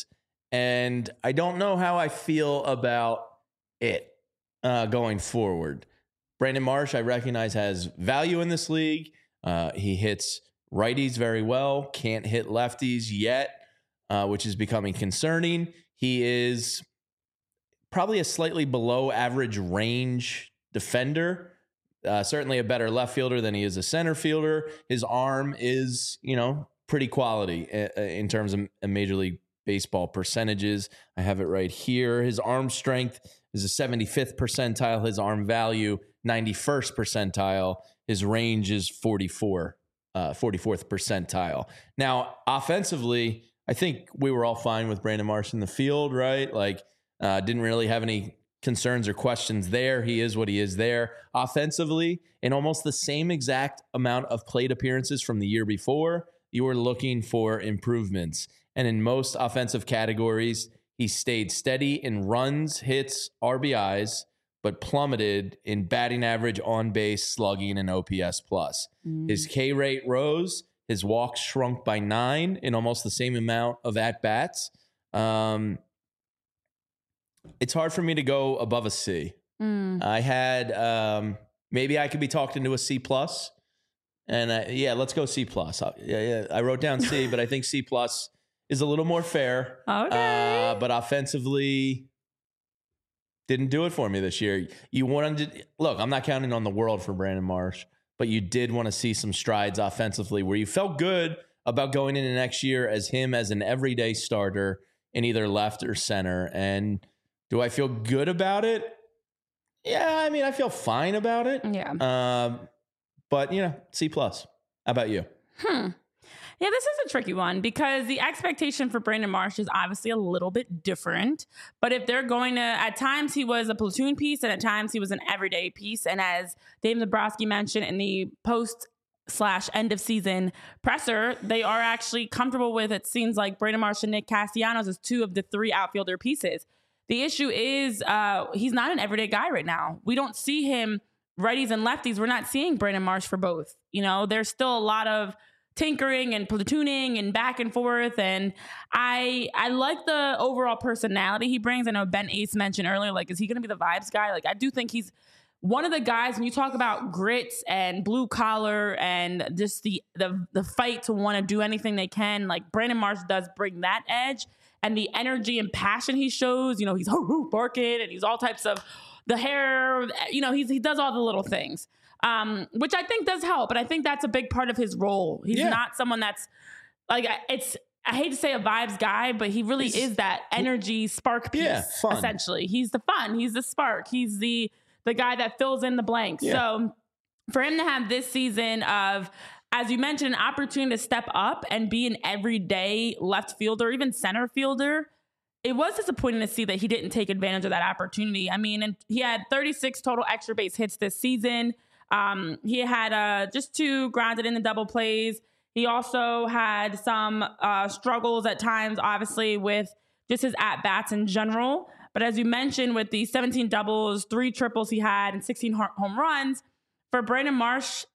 And I don't know how I feel about it uh, going forward. Brandon Marsh, I recognize, has value in this league. Uh, he hits righties very well, can't hit lefties yet, uh, which is becoming concerning. He is probably a slightly below average range defender, uh, certainly a better left fielder than he is a center fielder. His arm is, you know, pretty quality in terms of Major League Baseball percentages. I have it right here. His arm strength is a seventy-fifth percentile. His arm value, ninety-first percentile. His range is forty-four, uh, forty-fourth percentile. Now, offensively, I think we were all fine with Brandon Marsh in the field, right? Like, uh, didn't really have any concerns or questions there. He is what he is there. Offensively, in almost the same exact amount of plate appearances from the year before, you were looking for improvements. And in most offensive categories, he stayed steady in runs, hits, R B Is, but plummeted in batting average, on base, slugging, and O P S plus. Mm. His K rate rose. His walks shrunk by nine in almost the same amount of at-bats. Um, it's hard for me to go above a C. Mm. I had, um, maybe I could be talked into a C plus. And I, yeah, let's go C plus. I, yeah, yeah, I wrote down C, but I think C plus is a little more fair. Okay. Uh, but offensively, didn't do it for me this year. You wanted to, look, I'm not counting on the world for Brandon Marsh, but you did want to see some strides offensively where you felt good about going into next year as him as an everyday starter in either left or center. And do I feel good about it? Yeah, I mean, I feel fine about it. Yeah. Um, but, you know, C plus. How about you? Hmm. Yeah, this is a tricky one because the expectation for Brandon Marsh is obviously a little bit different. But if they're going to, at times he was a platoon piece and at times he was an everyday piece. And as Dave Zabrowski mentioned in the post slash end of season presser, they are actually comfortable with, it seems like, Brandon Marsh and Nick Castellanos as two of the three outfielder pieces. The issue is uh, he's not an everyday guy right now. We don't see him righties and lefties. We're not seeing Brandon Marsh for both. You know, there's still a lot of tinkering and platooning and back and forth. And I I like the overall personality he brings. I know Ben Ace mentioned earlier, like, is he going to be the vibes guy? Like, I do think he's one of the guys, when you talk about grits and blue collar and just the the, the fight to want to do anything they can, like Brandon Marsh does bring that edge and the energy and passion he shows. You know, he's barking and he's all types of the hair, you know, he's, he does all the little things. Um, which I think does help, but I think that's a big part of his role. He's yeah. not someone that's like, it's, I hate to say a vibes guy, but he really he's, is that energy spark piece, yeah, essentially. He's the fun. He's the spark. He's the, the guy that fills in the blanks. Yeah. So for him to have this season of, as you mentioned, an opportunity to step up and be an everyday left fielder, even center fielder, it was disappointing to see that he didn't take advantage of that opportunity. I mean, and he had thirty-six total extra base hits this season. Um, he had uh, just two grounded in the double plays. He also had some uh, struggles at times, obviously, with just his at-bats in general. But as you mentioned, with the seventeen doubles, three triples he had, and sixteen home runs, for Brandon Marsh,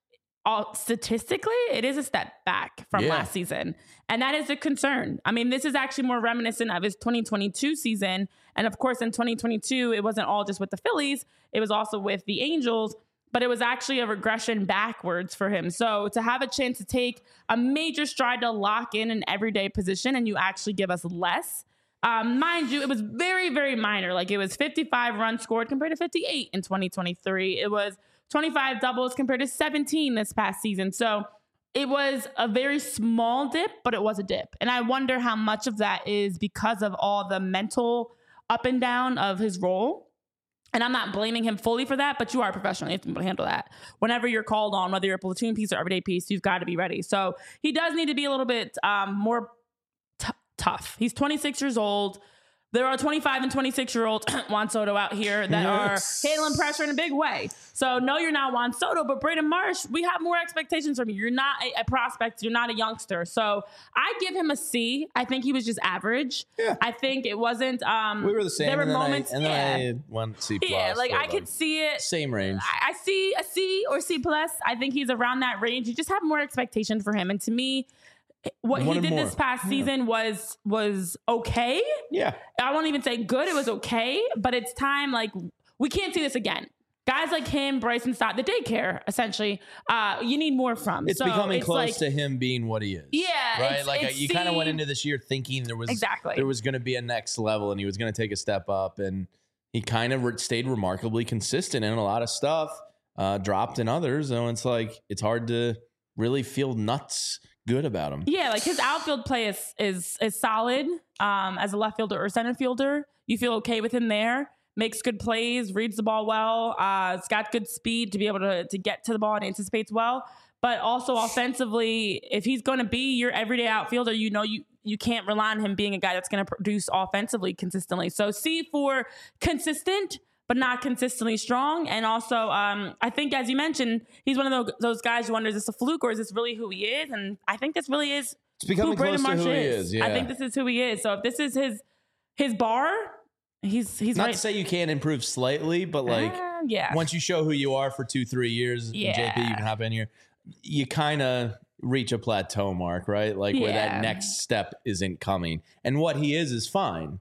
all statistically, it is a step back from Yeah. last season. And that is a concern. I mean, this is actually more reminiscent of his twenty twenty-two season. And of course, in twenty twenty-two, it wasn't all just with the Phillies. It was also with the Angels, but it was actually a regression backwards for him. So to have a chance to take a major stride to lock in an everyday position and you actually give us less, um, mind you, it was very, very minor. Like it was fifty-five runs scored compared to fifty-eight in twenty twenty-three. It was twenty-five doubles compared to seventeen this past season. So it was a very small dip, but it was a dip. And I wonder how much of that is because of all the mental up and down of his role. And I'm not blaming him fully for that, but you are a professional. You have to be able to handle that. Whenever you're called on, whether you're a platoon piece or everyday piece, you've got to be ready. So he does need to be a little bit um, more t- tough. He's twenty-six years old. There are twenty-five and twenty-six year old Juan Soto out here that Yes. are handling pressure in a big way. So no, you're not Juan Soto, but Brandon Marsh, we have more expectations from you. You're not a, a prospect. You're not a youngster. So I give him a C. I think he was just average. Yeah. I think it wasn't. Um, We were the same. There were and then moments. I, and then yeah. I had one C plus. Yeah, like for I them. could see it. Same range. I I see a C or C plus. I think he's around that range. You just have more expectation for him. And to me, what he Wanted did more. this past Yeah. season was was okay. Yeah. I won't even say good. It was okay, but it's time. Like we can't see this again. Guys like him, Bryson Stott, the daycare, essentially, uh, you need more from. It's So becoming it's close like, to him being what he is. Yeah, Right? it's- like it's you kind of went C- into this year thinking there was Exactly. there was going to be a next level and he was going to take a step up, and he kind of re- stayed remarkably consistent in a lot of stuff, uh, dropped in others. And it's like it's hard to really feel nuts good about him. Yeah, like his outfield play is is is solid. Um, as a left fielder or center fielder, you feel okay with him there. Makes good plays, reads the ball well. Uh, it's got good speed to be able to to get to the ball and anticipates well. But also offensively, if he's going to be your everyday outfielder, you know you you can't rely on him being a guy that's going to produce offensively consistently. So C for consistent, but not consistently strong. And also, um, I think, as you mentioned, he's one of those, those guys who wonders, is this a fluke or is this really who he is? And I think this really is It's becoming who Brandon close to Marsh who he is. is. Yeah. I think this is who he is. So if this is his his bar, he's he's Not right. to say you can't improve slightly, but like Uh, yeah. once you show who you are for two, three years, Yeah. J P, you can hop in here. You kind of reach a plateau mark, right? Like where Yeah. that next step isn't coming. And what he is is fine.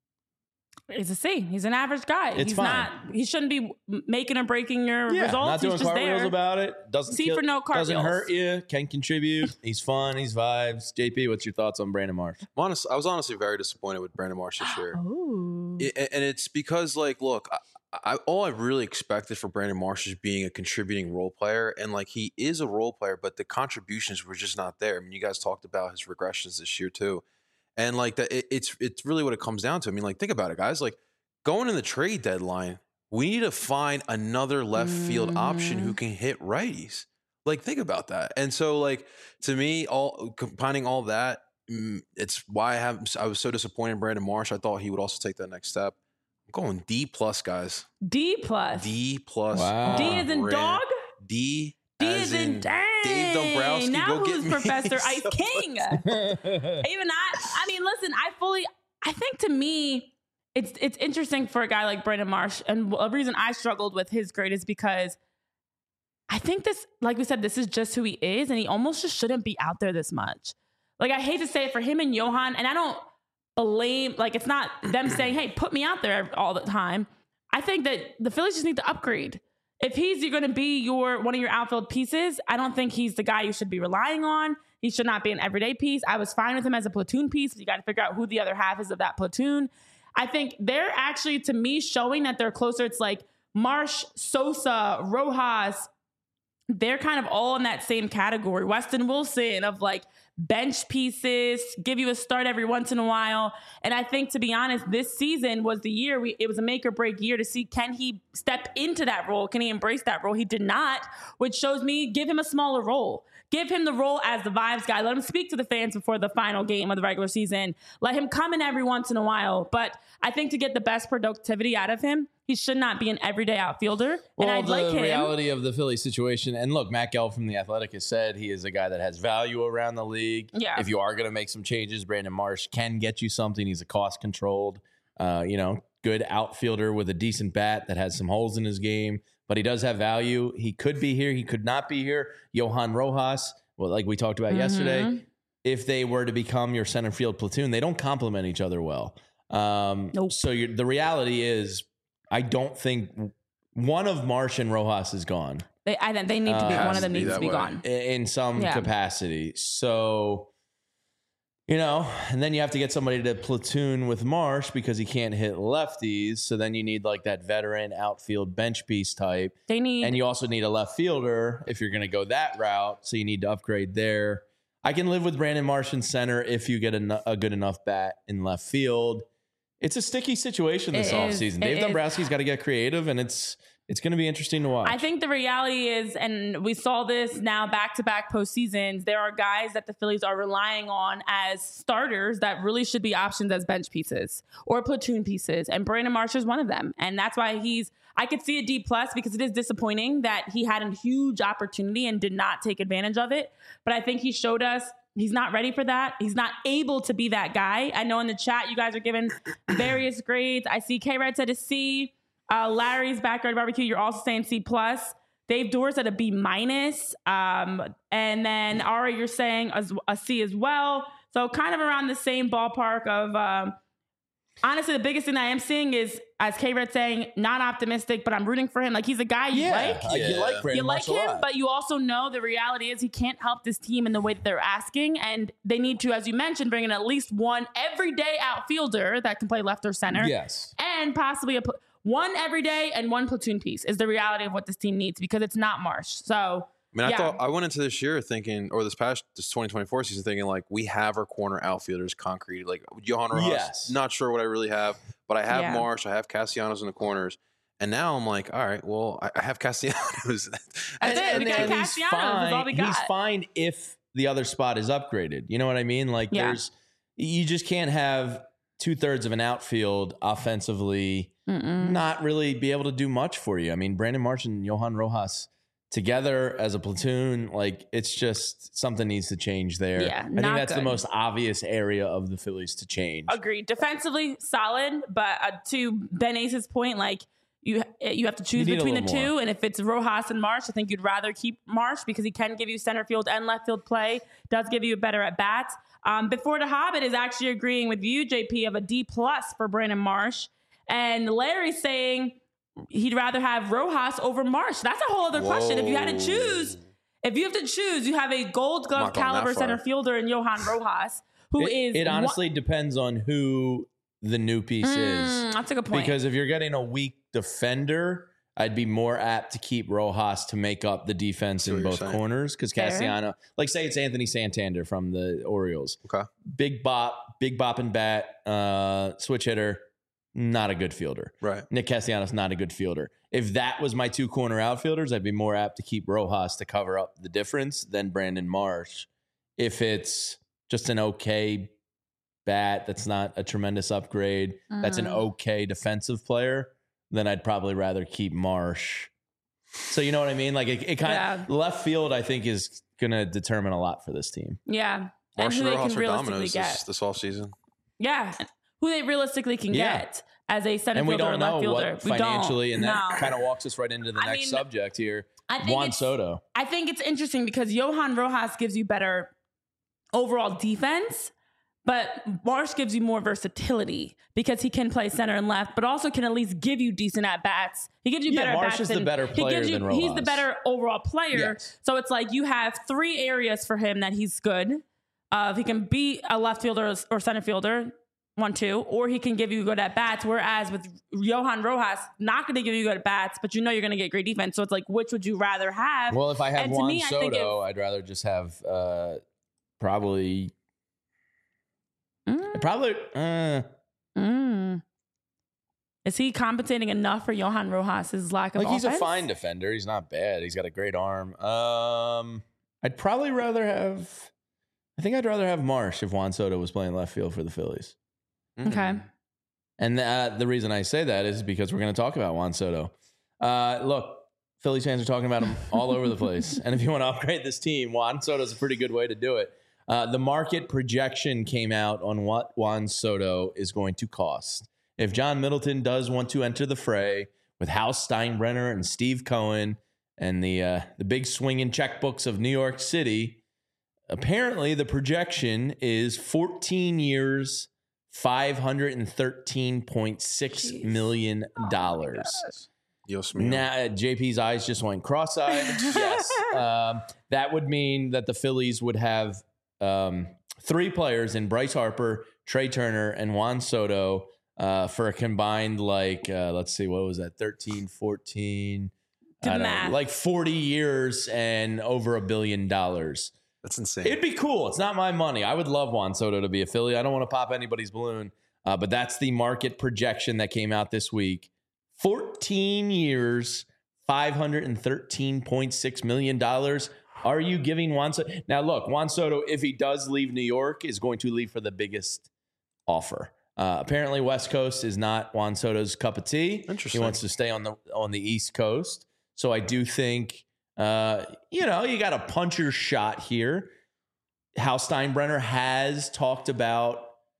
He's a C. He's an average guy. It's he's fine. not. He shouldn't be making or breaking your Yeah, results. not doing he's just cartwheels there. about it. Doesn't C kill- for no Doesn't cartwheels. hurt you. Can contribute. He's fun. He's vibes. J P, what's your thoughts on Brandon Marsh? I'm honest, I was honestly very disappointed with Brandon Marsh this year. Ooh. It- and it's because, like, look, I, I, all I really expected for Brandon Marsh is being a contributing role player, and like he is a role player, but the contributions were just not there. I mean, you guys talked about his regressions this year too, and like that, it, it's it's really what it comes down to. I mean, like, think about it, guys. Like going in the trade deadline, we need to find another left field option who can hit righties. Like, think about that. And so, like, to me, all combining all that, mm, it's why I have I was so disappointed in Brandon Marsh. I thought he would also take that next step. I'm going D plus, guys. D plus. D plus. Wow. D is in Brand- dog. D. D as is in dang. Dave Dombrowski. Now Go who's get me Professor Ice some- King? Even I. I mean, listen. I fully. I think to me, it's it's interesting for a guy like Brandon Marsh, and a reason I struggled with his grade is because I think this, like we said, this is just who he is, and he almost just shouldn't be out there this much. Like I hate to say it for him and Johan, and I don't blame. Like it's not them saying, "Hey, put me out there all the time." I think that the Phillies just need to upgrade. If he's you're going to be your one of your outfield pieces, I don't think he's the guy you should be relying on. He should not be an everyday piece. I was fine with him as a platoon piece. But you got to figure out who the other half is of that platoon. I think they're actually, to me, showing that they're closer. It's like Marsh, Sosa, Rojas. They're kind of all in that same category. Weston Wilson of like bench pieces, give you a start every once in a while. And I think, to be honest, this season was the year we, it was a make or break year to see, can he step into that role? Can he embrace that role? He did not, which shows me give him a smaller role. Give him the role as the vibes guy. Let him speak to the fans before the final game of the regular season. Let him come in every once in a while. But I think to get the best productivity out of him, he should not be an everyday outfielder. Well, and I'd the like him. reality of the Philly situation, and look, Matt Gelb from The Athletic has said he is a guy that has value around the league. Yeah. If you are going to make some changes, Brandon Marsh can get you something. He's a cost-controlled, uh, you know, good outfielder with a decent bat that has some holes in his game, but he does have value. He could be here. He could not be here. Johan Rojas, well, like we talked about Mm-hmm. yesterday, if they were to become your center field platoon, they don't complement each other well. Um, Nope. So you're, the reality is, I don't think one of Marsh and Rojas is gone They, I think they need to be. Uh, one of them has to be needs to that be way. gone. i- in some Yeah. capacity. So, you know, and then you have to get somebody to platoon with Marsh because he can't hit lefties. So then you need like that veteran outfield bench piece type. They need. And you also need a left fielder if you're going to go that route. So you need to upgrade there. I can live with Brandon Marsh in center if you get a, a good enough bat in left field. It's a sticky situation this It is. offseason. It Dave is. Dombrowski's got to get creative, and it's it's going to be interesting to watch. I think the reality is, and we saw this now back to back postseasons, there are guys that the Phillies are relying on as starters that really should be options as bench pieces or platoon pieces. And Brandon Marsh is one of them. And that's why he's, I could see a D plus because it is disappointing that he had a huge opportunity and did not take advantage of it. But I think he showed us he's not ready for that. He's not able to be that guy. I know in the chat, you guys are giving various grades. I see K-Red said a C. Uh, Larry's Backyard Barbecue, you're also saying C plus. Dave Doors at a B minus. Um, and then Ari, you're saying a, a C as well. So kind of around the same ballpark of, um, honestly, the biggest thing I am seeing is, as K-Red saying, not optimistic, but I'm rooting for him. Like, he's a guy you yeah, like. I- you Yeah. like Brandon You like Marsh a him, lot. but you also know the reality is he can't help this team in the way that they're asking. And they need to, as you mentioned, bring in at least one everyday outfielder that can play left or center. Yes. And possibly a pl- one everyday and one platoon piece is the reality of what this team needs because it's not Marsh. So, I mean, I yeah. thought I went into this year thinking, or this past this twenty twenty-four season thinking, like we have our corner outfielders concrete. Like Johan Rojas, Yes. not sure what I really have, but I have Yeah. Marsh, I have Castellanos in the corners, and now I'm like, all right, well, I, I have Castellanos. That's it. We got he's Castellanos is all we fine. He's got. fine if the other spot is upgraded. You know what I mean? Like Yeah. there's, you just can't have two thirds of an outfield offensively Mm-mm. not really be able to do much for you. I mean, Brandon Marsh and Johan Rojas together as a platoon, like it's just something needs to change there. Yeah, I think not that's the good. most obvious area of the Phillies to change. Agreed. Defensively, solid. But uh, to Ben Ace's point, like, you you have to choose You need a between the little two. more. And if it's Rojas and Marsh, I think you'd rather keep Marsh because he can give you center field and left field play, does give you a better at bats. Um, Before the Hobbit is actually agreeing with you, J P, of a D plus for Brandon Marsh. And Larry's saying he'd rather have Rojas over Marsh. That's a whole other question. If you had to choose, if you have to choose, you have a gold glove not going that caliber far. center fielder in Johan Rojas, who it, is it one- honestly depends on who the new piece is. Mm, that's a good point. Because if you're getting a weak defender, I'd be more apt to keep Rojas to make up the defense See in what you're both saying. corners. Because Fair. Castellano, like say it's Anthony Santander from the Orioles, Okay. big bop, big bop and bat, uh, switch hitter, not a good fielder. Right. Nick Castellanos, not a good fielder. If that was my two corner outfielders, I'd be more apt to keep Rojas to cover up the difference than Brandon Marsh. If it's just an okay bat, that's not a tremendous upgrade, that's an Mm. okay defensive player, then I'd probably rather keep Marsh. So you know what I mean? Like it, it kind Yeah. of left field, I think, is going to determine a lot for this team. Yeah. And Marsh who and they Rojas can are realistically dominoes get. this, this offseason. Yeah. Who they realistically can Yeah. get as a center And we fielder or don't left know fielder. what We don't. financially, and that No. kind of walks us right into the I next mean, subject here. I think Juan it's, Soto. I think it's interesting because Johan Rojas gives you better overall defense, but Marsh gives you more versatility because he can play center and left, but also can at least give you decent at bats. He gives you Yeah, better Marsh at bats. is the than- better he player gives you, than He's the Rojas. better overall player. Yes. So it's like you have three areas for him that he's good. Uh, he can be a left fielder or center fielder, one, two, or he can give you good at bats. Whereas with Johan Rojas, not going to give you good at bats, but you know you're going to get great defense. So it's like, which would you rather have? Well, if I have And to Juan me, I think Soto, I'd rather just have uh, probably Mm, probably. Uh, mm. Is he compensating enough for Johan Rojas' lack of like he's a offense? fine defender. He's not bad. He's got a great arm. Um, I'd probably rather have. I think I'd rather have Marsh if Juan Soto was playing left field for the Phillies. Okay. And uh, the reason I say that is because we're going to talk about Juan Soto. Uh, look, Phillies fans are talking about him all over the place. And if you want to upgrade this team, Juan Soto is a pretty good way to do it. Uh, the market projection came out on what Juan Soto is going to cost. If John Middleton does want to enter the fray, with Hal Steinbrenner and Steve Cohen and the uh, the big swinging checkbooks of New York City, apparently the projection is fourteen years, five hundred thirteen point six million dollars. Dios mío. Now, J P's eyes just went cross-eyed. Yes. Um, that would mean that the Phillies would have um, three players in Bryce Harper, Trey Turner, and Juan Soto uh, for a combined, like, uh, let's see, what was that? thirteen, fourteen, Do I don't math. know, like forty years and over a billion dollars. That's insane. It'd be cool. It's not my money. I would love Juan Soto to be a Philly. I don't want to pop anybody's balloon, uh, but that's the market projection that came out this week. fourteen years, five hundred thirteen point six million dollars. Are you giving Juan Soto? Now, look, Juan Soto, if he does leave New York, is going to leave for the biggest offer. Uh, apparently, West Coast is not Juan Soto's cup of tea. Interesting. He wants to stay on the on the East Coast. So I do think, uh, you know, you got a puncher's shot here. Hal Steinbrenner has talked about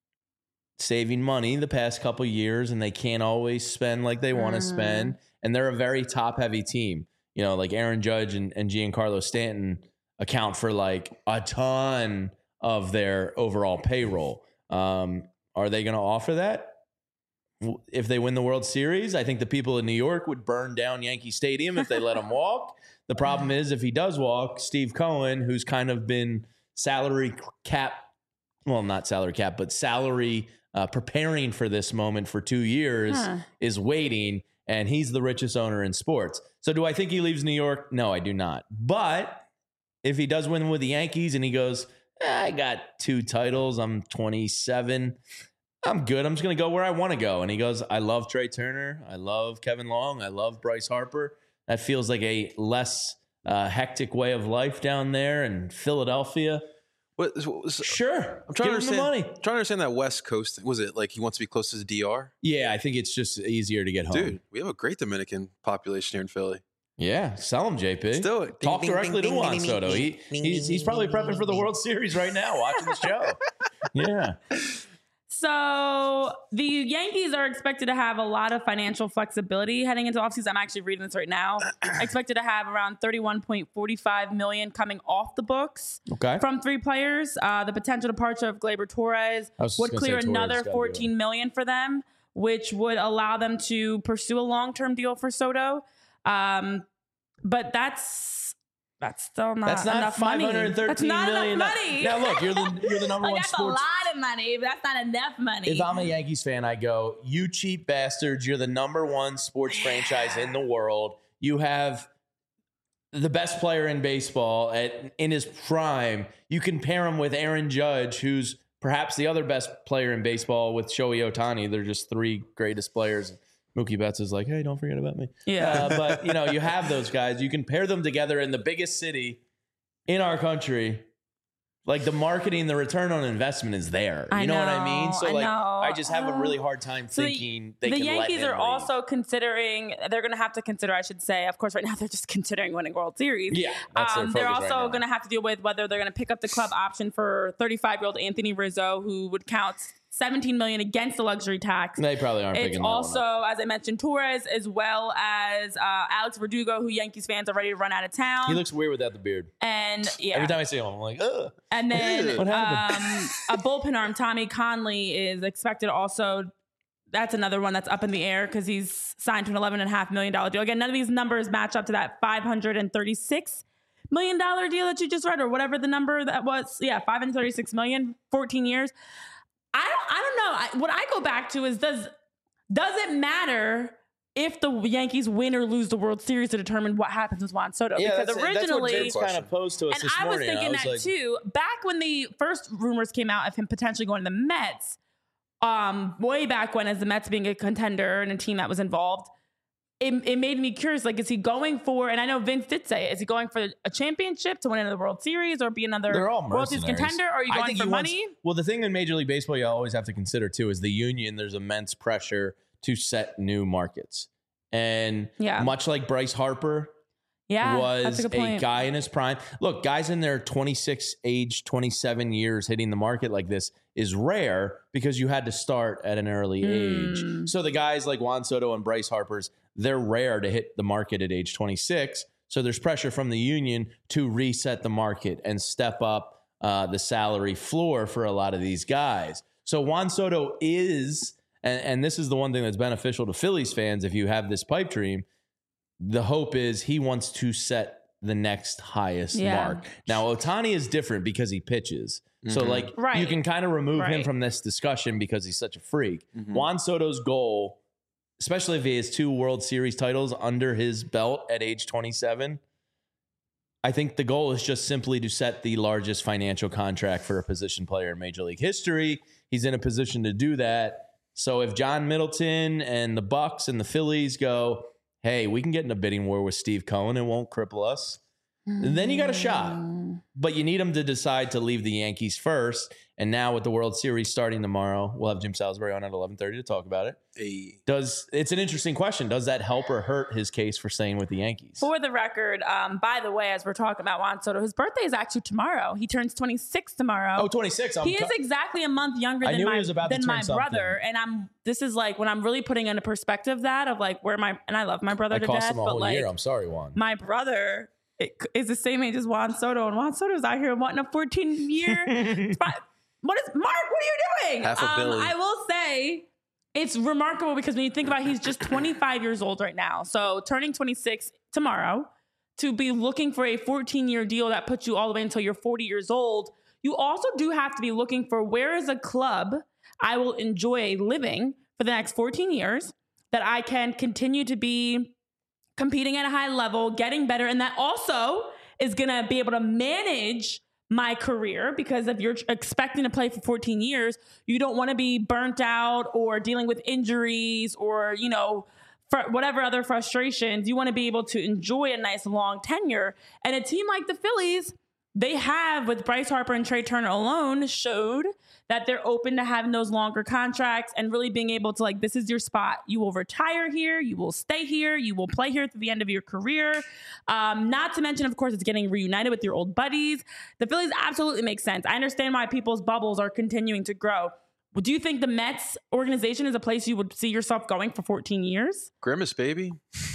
saving money the past couple years, and they can't always spend like they want to Mm. spend. And they're a very top heavy team. You know, like Aaron Judge and, and Giancarlo Stanton account for like a ton of their overall payroll. Um, are they going to offer that? W- If they win the World Series, I think the people in New York would burn down Yankee Stadium if they let him walk. The problem is, if he does walk, Steve Cohen, who's kind of been salary cap, well, not salary cap, but salary uh, preparing for this moment for two years, Huh. is waiting, and he's the richest owner in sports. So do I think he leaves New York? No, I do not. But if he does win with the Yankees and he goes, "Eh, I got two titles, I'm twenty-seven, I'm good. I'm just going to go where I want to go." And he goes, I love Trey Turner. I love Kevin Long. I love Bryce Harper. That feels like a less uh, hectic way of life down there in Philadelphia. What, what, Sure. I'm trying to Give him the understand. money. Trying to understand that West Coast. Was it like he wants to be close to the D R? Yeah, I think it's just easier to get home. Dude, we have a great Dominican population here in Philly. Yeah, sell him, J P. Let's do it. Talk directly to Juan Soto. He, he's, he's probably prepping for the World Series right now, watching the show. Yeah. So the Yankees are expected to have a lot of financial flexibility heading into offseason. I'm actually reading this right now. Expected to have around thirty-one point four five million coming off the books Okay. from three players. Uh, the potential departure of Gleyber Torres I was just would gonna clear say Torres another gotta do it. fourteen million for them, which would allow them to pursue a long-term deal for Soto. Um, but that's that's still not That's not enough five money. hundred thirteen That's not million. enough money. Now look, you're the you're the number Like, one that's sports. a lot of money, but that's not enough money. If I'm a Yankees fan, I go, you cheap bastards, you're the number one sports franchise in the world. You have the best player in baseball at in his prime. You can pair him with Aaron Judge, who's perhaps the other best player in baseball with Shohei Ohtani. They're just three greatest players. Mookie Betts is like, hey, don't forget about me. Yeah. Uh, but, you know, you have those guys. You can pair them together in the biggest city in our country. Like, the marketing, the return on investment is there. You I know, what I mean? know, So, I like, know. I just have a Uh, really hard time So the- thinking they the can let Yankees him are leave. also considering, they're going to have to consider, I should say, of course, right now they're just considering winning World Series. Yeah, that's their Um, they're focus right also now. going to have to deal with whether they're going to pick up the club option for thirty-five-year-old Anthony Rizzo, who would count seventeen million dollars against the luxury tax. They probably aren't It's picking that also, one up. as I mentioned, Torres, as well as uh, Alex Verdugo, who Yankees fans are ready to run out of town. He looks weird without the beard. and yeah, Every time I see him, I'm like, ugh. and then What um, happened? a bullpen arm, Tommy Conley, is expected also. That's another one that's up in the air because he's signed to an eleven point five million dollars deal. Again, none of these numbers match up to that five hundred thirty-six million dollars deal that you just read, or whatever the number that was. Yeah, five hundred thirty-six million dollars, fourteen years. I don't, I don't know. I, what I go back to is does does it matter if the Yankees win or lose the World Series to determine what happens with Juan Soto? because originally, kind of posed to us and this I was morning. thinking was that like, too. Back when the first rumors came out of him potentially going to the Mets, um, way back when, as the Mets being a contender and a team that was involved, it, it made me curious. Like, is he going for? And I know Vince did say, is he going for a championship to win another World Series or be another They're all World Series mercenaries. contender? Or are you I going think for he wants- money? well, the thing in Major League Baseball you always have to consider too is the union. There's immense pressure to set new markets, and Yeah. much like Bryce Harper, Yeah, was that's a good point. guy in his prime. Look, guys in their twenty-six, age twenty-seven years hitting the market like this is rare because you had to start at an early Mm. age. So the guys like Juan Soto and Bryce Harper's, they're rare to hit the market at age twenty-six. So there's pressure from the union to reset the market and step up uh, the salary floor for a lot of these guys. So Juan Soto is, and, and this is the one thing that's beneficial to Phillies fans if you have this pipe dream, the hope is he wants to set the next highest Yeah. mark. Now, Ohtani is different because he pitches. So, Mhm. like, Right. you can kind of remove him Right. from this discussion because he's such a freak. Mhm. Juan Soto's goal, especially if he has two World Series titles under his belt at age twenty-seven, I think the goal is just simply to set the largest financial contract for a position player in Major League history. He's in a position to do that. So if John Middleton and the Bucks and the Phillies go, hey, we can get in a bidding war with Steve Cohen, it won't cripple us, then you got a shot. Mm. But you need him to decide to leave the Yankees first. And now with the World Series starting tomorrow, we'll have Jim Salisbury on at eleven thirty to talk about it. Hey. Does it's an interesting question. Does that help or hurt his case for staying with the Yankees? For the record, um, by the way, as we're talking about Juan Soto, his birthday is actually tomorrow. He turns twenty-six tomorrow. Oh, twenty-six. I'm He is co- exactly a month younger I than knew he my was about to than turn my something. brother, and I'm. This is like when I'm really putting into perspective that of like where my and I love my brother I to cost death, him a but whole like year. I'm sorry, Juan. my brother it, is the same age as Juan Soto, and Juan Soto's out here wanting a fourteen year. What is Mark? What are you doing? Half a um, billy. I will say it's remarkable because when you think about it, he's just twenty-five years old right now. So turning twenty-six tomorrow to be looking for a fourteen year deal that puts you all the way until you're forty years old. You also do have to be looking for where is a club I will enjoy living for the next fourteen years that I can continue to be competing at a high level, getting better. And that also is going to be able to manage my career, because if you're expecting to play for fourteen years, you don't want to be burnt out or dealing with injuries or, you know, for whatever other frustrations. You want to be able to enjoy a nice long tenure. And a team like the Phillies, they have, with Bryce Harper and Trey Turner alone, showed that they're open to having those longer contracts and really being able to, like, this is your spot. You will retire here. You will stay here. You will play here through the end of your career. Um, not to mention, of course, it's getting reunited with your old buddies. The Phillies absolutely make sense. I understand why people's bubbles are continuing to grow. Do you think the Mets organization is a place you would see yourself going for fourteen years? Grimace, baby.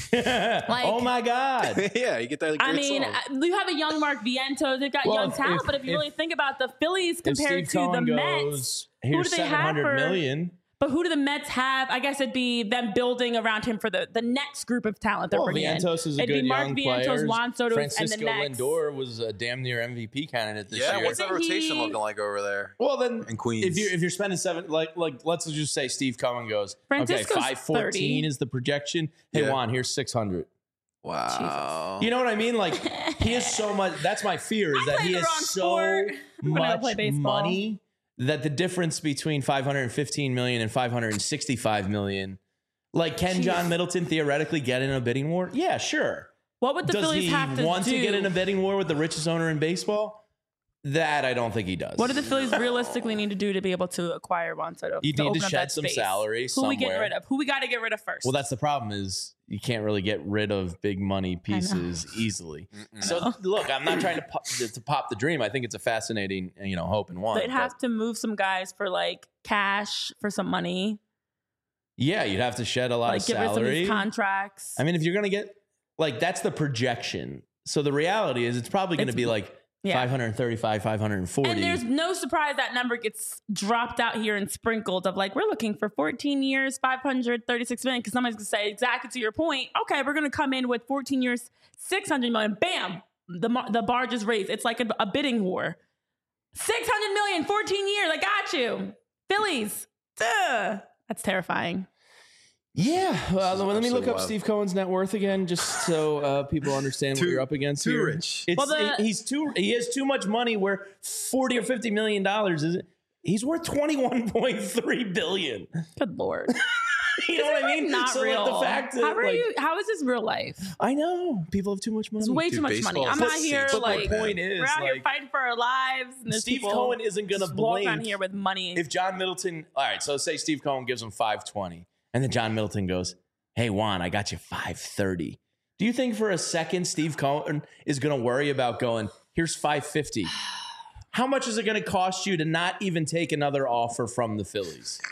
oh my God. Yeah, you get that. Great I mean, song. uh, you have a young Mark Vientos. They've got Well, young if- talent, if- but if you if- really think about the Phillies If compared Steve to Cohen the goes, Mets, here's do they have seven hundred for- million. but who do the Mets have? I guess it'd be them building around him for the, the next group of talent they're Well, bringing in. Vientos is a It'd good be Mark young Vientos, player. Juan Soto, and the Francisco next. Lindor was a damn near M V P candidate this yeah, year. what's that Isn't rotation he- looking like over there Well, then in Queens? if you're if you're spending seven, like like let's just say Steve Cohen goes, Francisco's okay, five fourteen thirty. is the projection. Hey Yeah. Juan, here's six hundred. wow. You know what I mean? Like he has so much. That's my fear is I that played he the has wrong so sport. I'm gonna much play baseball. money that the difference between five hundred fifteen million and five hundred sixty-five million. Like, can Jeez. John Middleton theoretically get in a bidding war? Yeah, sure. What would the Does Phillies he have to want do? to get in a bidding war with the richest owner in baseball? That I don't think he does. What do the Phillies realistically need to do to be able to acquire Juan Soto? You need open to up shed that some space? salary Who we getting somewhere. rid of? Who we got to get rid of first? Well, that's the problem is you can't really get rid of big money pieces easily. So look, I'm not trying to pop, to pop the dream. I think it's a fascinating, you know, hope and one. They'd have to move some guys for like cash for some money, Yeah, you'd have to shed a lot like of get rid of some of salary. these contracts. I mean, if you're going to get like that's the projection. So the reality is it's probably going to It's- be like yeah. five hundred thirty-five, five hundred forty. And there's no surprise that number gets dropped out here and sprinkled of like, we're looking for fourteen years, five hundred thirty-six million. Because somebody's going to say exactly to your point, okay, we're going to come in with fourteen years, six hundred million. Bam! The, mar- the bar just raised. It's like a, a bidding war. six hundred million, fourteen years. I got you. Phillies. Duh. That's terrifying. Yeah, well, let me absolutely look up wild. Steve Cohen's net worth again, just so uh, people understand what Too- you're up against. too here. rich. It's, Well, the- he's too. He has too much money. Where forty or fifty million dollars is. He's worth twenty one point three billion. Good Lord. You know what I mean? Not so real. Like, the fact that how are like, you? How is this real life? I know people have too much money. It's way Dude, too much baseball money. is I'm the out here same. But my like point is, we're out here like, fighting for our lives. And there's Steve people Cohen isn't going to just walk blink. on here with money. If John Middleton, all right, so say Steve Cohen gives him five twenty, and then John Middleton goes, "Hey Juan, I got you five thirty. Do you think for a second Steve Cohen is going to worry about going, here's five fifty? How much is it going to cost you to not even take another offer from the Phillies?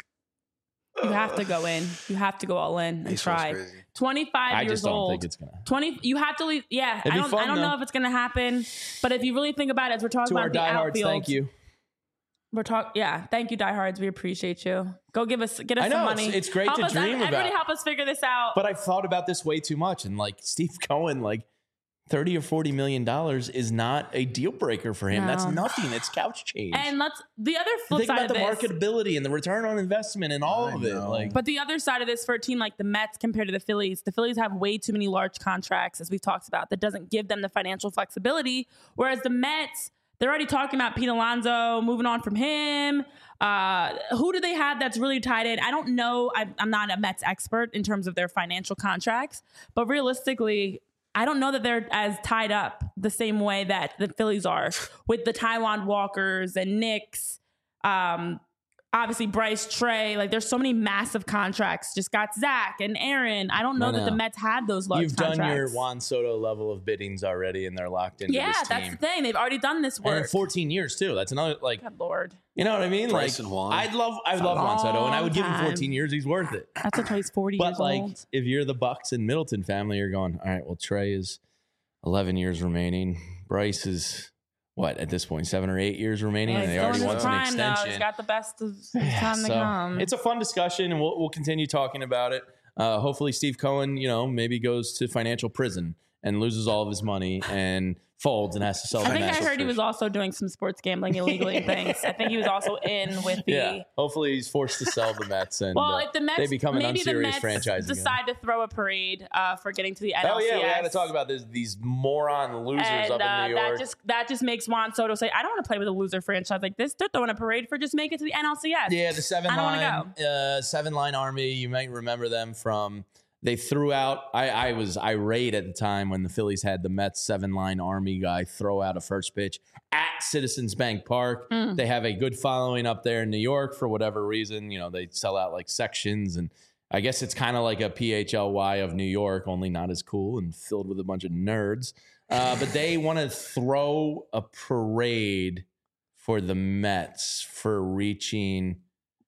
You have to go in. You have to go all in and Baseball's try. crazy. twenty-five I years just don't old. think it's going to. twenty. You have to leave. Yeah, It'd I be don't. fun, I don't though. know if it's going to happen, but if you really think about it, as we're talking To our about the diehards, outfield, thank you. We're talking. Yeah, thank you, diehards. We appreciate you. Go give us, get us I know, some it's- money. it's great help to us, dream everybody about. help us figure this out. But I've thought about this way too much. And like Steve Cohen, like thirty or forty million dollars is not a deal breaker for him. No. That's nothing. It's couch change. and let's the other flip Think side about the of this. marketability and the return on investment and all I of it. know. Like, But the other side of this for a team like the Mets compared to the Phillies, the Phillies have way too many large contracts, as we've talked about, that doesn't give them the financial flexibility. Whereas the Mets, they're already talking about Pete Alonso, moving on from him. Uh, who do they have that's really tied in? I don't know. I'm, I'm not a Mets expert in terms of their financial contracts, but realistically, I don't know that they're as tied up the same way that the Phillies are with the Taiwan Walkers and Knicks. Um, obviously Bryce, Trey, like there's so many massive contracts. Just got Zach and Aaron. I don't know I that the know. Mets had those large you've contracts. done your Juan Soto level of biddings already, and they're locked into yeah, this team. that's the thing. They've already done this And work. in fourteen years too. That's another like, Good Lord. you know what I mean? Bryce like, and Juan. I'd love, I It's a love Juan Soto, and I would give him long fourteen time. years. He's worth it. That's until he's forty But years like, old. if you're the Bucks and Middleton family, you're going, all right. Well, Trey is eleven years remaining. Bryce is what at this point, seven or eight years remaining, Yeah, and he's they still already in want his an prime now. extension. He's got the best of his Yeah, time to so come. it's a fun discussion, and we'll we'll continue talking about it. Uh, hopefully, Steve Cohen, you know, maybe goes to financial prison and loses all of his money and folds and has to sell. I the think I Mets. heard he was also doing some sports gambling illegally and things. I think he was also in with the. Yeah, hopefully he's forced to sell the Mets, and Well, uh, if the Mets they become an maybe the unserious Mets franchise again. decide to throw a parade uh, for getting to the N L Oh C S. yeah, we had to talk about this. These moron losers And up uh, in New York. that just that just makes Juan Soto say, "I don't want to play with a loser franchise like this. They're throwing a parade for just make it to the N L C S." Yeah, the seven I don't line, wanna uh, seven line army. You might remember them from. They threw out. I, I was irate at the time when the Phillies had the Mets seven line army guy throw out a first pitch at Citizens Bank Park. Mm. They have a good following up there in New York for whatever reason. You know, they sell out like sections, and I guess it's kind of like a P H L Y of New York, only not as cool and filled with a bunch of nerds. Uh, but they want to throw a parade for the Mets for reaching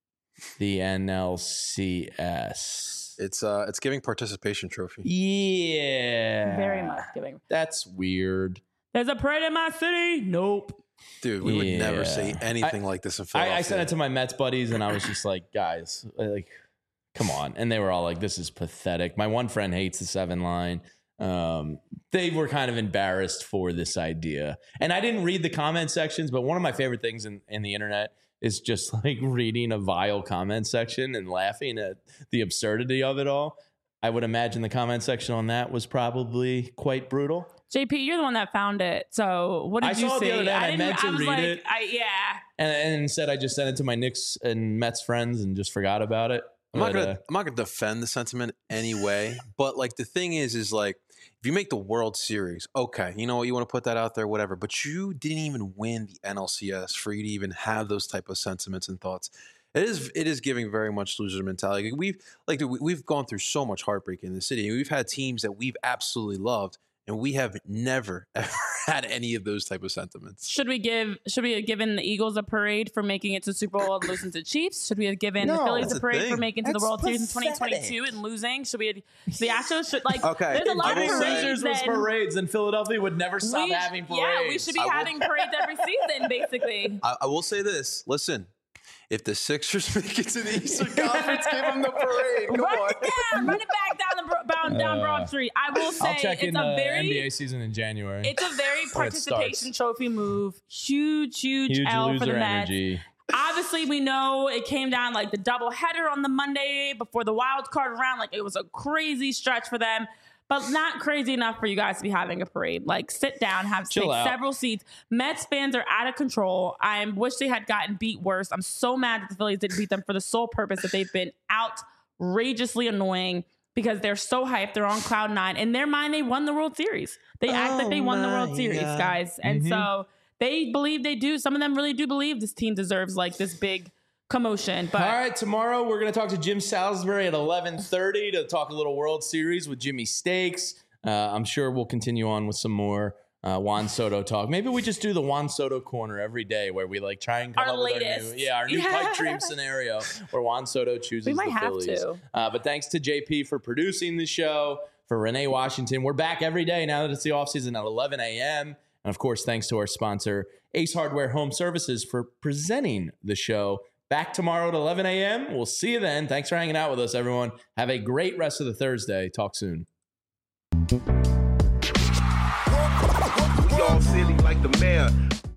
the N L C S. It's uh, it's giving participation trophy. Yeah. Very much giving. That's weird. There's a parade in my city. Nope. Dude, we would never Yeah. say anything like this in Philadelphia. I, I sent it to my Mets buddies and I was just like, guys, like, come on. And they were all like, this is pathetic. My one friend hates the seven line. Um, they were kind of embarrassed for this idea. And I didn't read the comment sections, but one of my favorite things in, in the internet is just like reading a vile comment section and laughing at the absurdity of it all. I would imagine the comment section on that was probably quite brutal. J P, you're the one that found it. So what did I you saw it see? the other day and I didn't- meant to was read like, it. I, yeah. And, and instead, I just sent it to my Knicks and Mets friends and just forgot about it. I'm not But, gonna uh, I'm not gonna defend the sentiment anyway, but like the thing is, is like if you make the World Series, okay, you know what, you want to put that out there, whatever. But you didn't even win the N L C S for you to even have those type of sentiments and thoughts. It is it is giving very much loser mentality. We've like dude, we- we've gone through so much heartbreak in the city. We've had teams that we've absolutely loved, and we have never ever had any of those type of sentiments. Should we give? Should we have given the Eagles a parade for making it to Super Bowl and losing to Chiefs? Should we have given the No, Phillies that's a the parade thing. for making it to the That's World Series in twenty pathetic. twenty-two and losing? Should we? Have, the Astros should like. Okay, There's a lot I of will say- parades. Losers was then- parades, and Philadelphia would never stop we- having parades. Yeah, we should be I will- having parades every season, basically. I, I will say this. Listen, if the Sixers make it to the Eastern Conference, give them the parade. Come Run on. it down, run it back down the bro- down, down Uh, Broad Street. I will say I'll check it's in a the very N B A season in January. it's a very When it participation starts. trophy move. Huge, huge, Huge L for loser the Mets. energy. Obviously, we know it came down like the double header on the Monday before the wild card round. Like it was a crazy stretch for them, but not crazy enough for you guys to be having a parade. Like sit down, have Chill take out. several seats. Mets fans are out of control. I wish they had gotten beat worse. I'm so mad that the Phillies didn't beat them for the sole purpose that they've been outrageously annoying because they're so hyped. They're on cloud nine. In their mind, they won the World Series. They act like they won the World Series, guys. And Mhm. so they believe they do. Some of them really do believe this team deserves like this big commotion. But All right, tomorrow we're going to talk to Jim Salisbury at eleven thirty to talk a little World Series with Jimmy Stakes. Uh, I'm sure we'll continue on with some more uh, Juan Soto talk. Maybe we just do the Juan Soto corner every day where we like try and come Our up with latest. our new, yeah, our new Yeah. pipe dream scenario where Juan Soto chooses We might the have Phillies. to. Uh, but thanks to J P for producing the show, for Renee Washington. We're back every day now that it's the offseason at eleven a.m. And of course, thanks to our sponsor, Ace Hardware Home Services, for presenting the show. Back tomorrow at eleven a.m. We'll see you then. Thanks for hanging out with us, everyone. Have a great rest of the Thursday. Talk soon. We all silly like the mayor.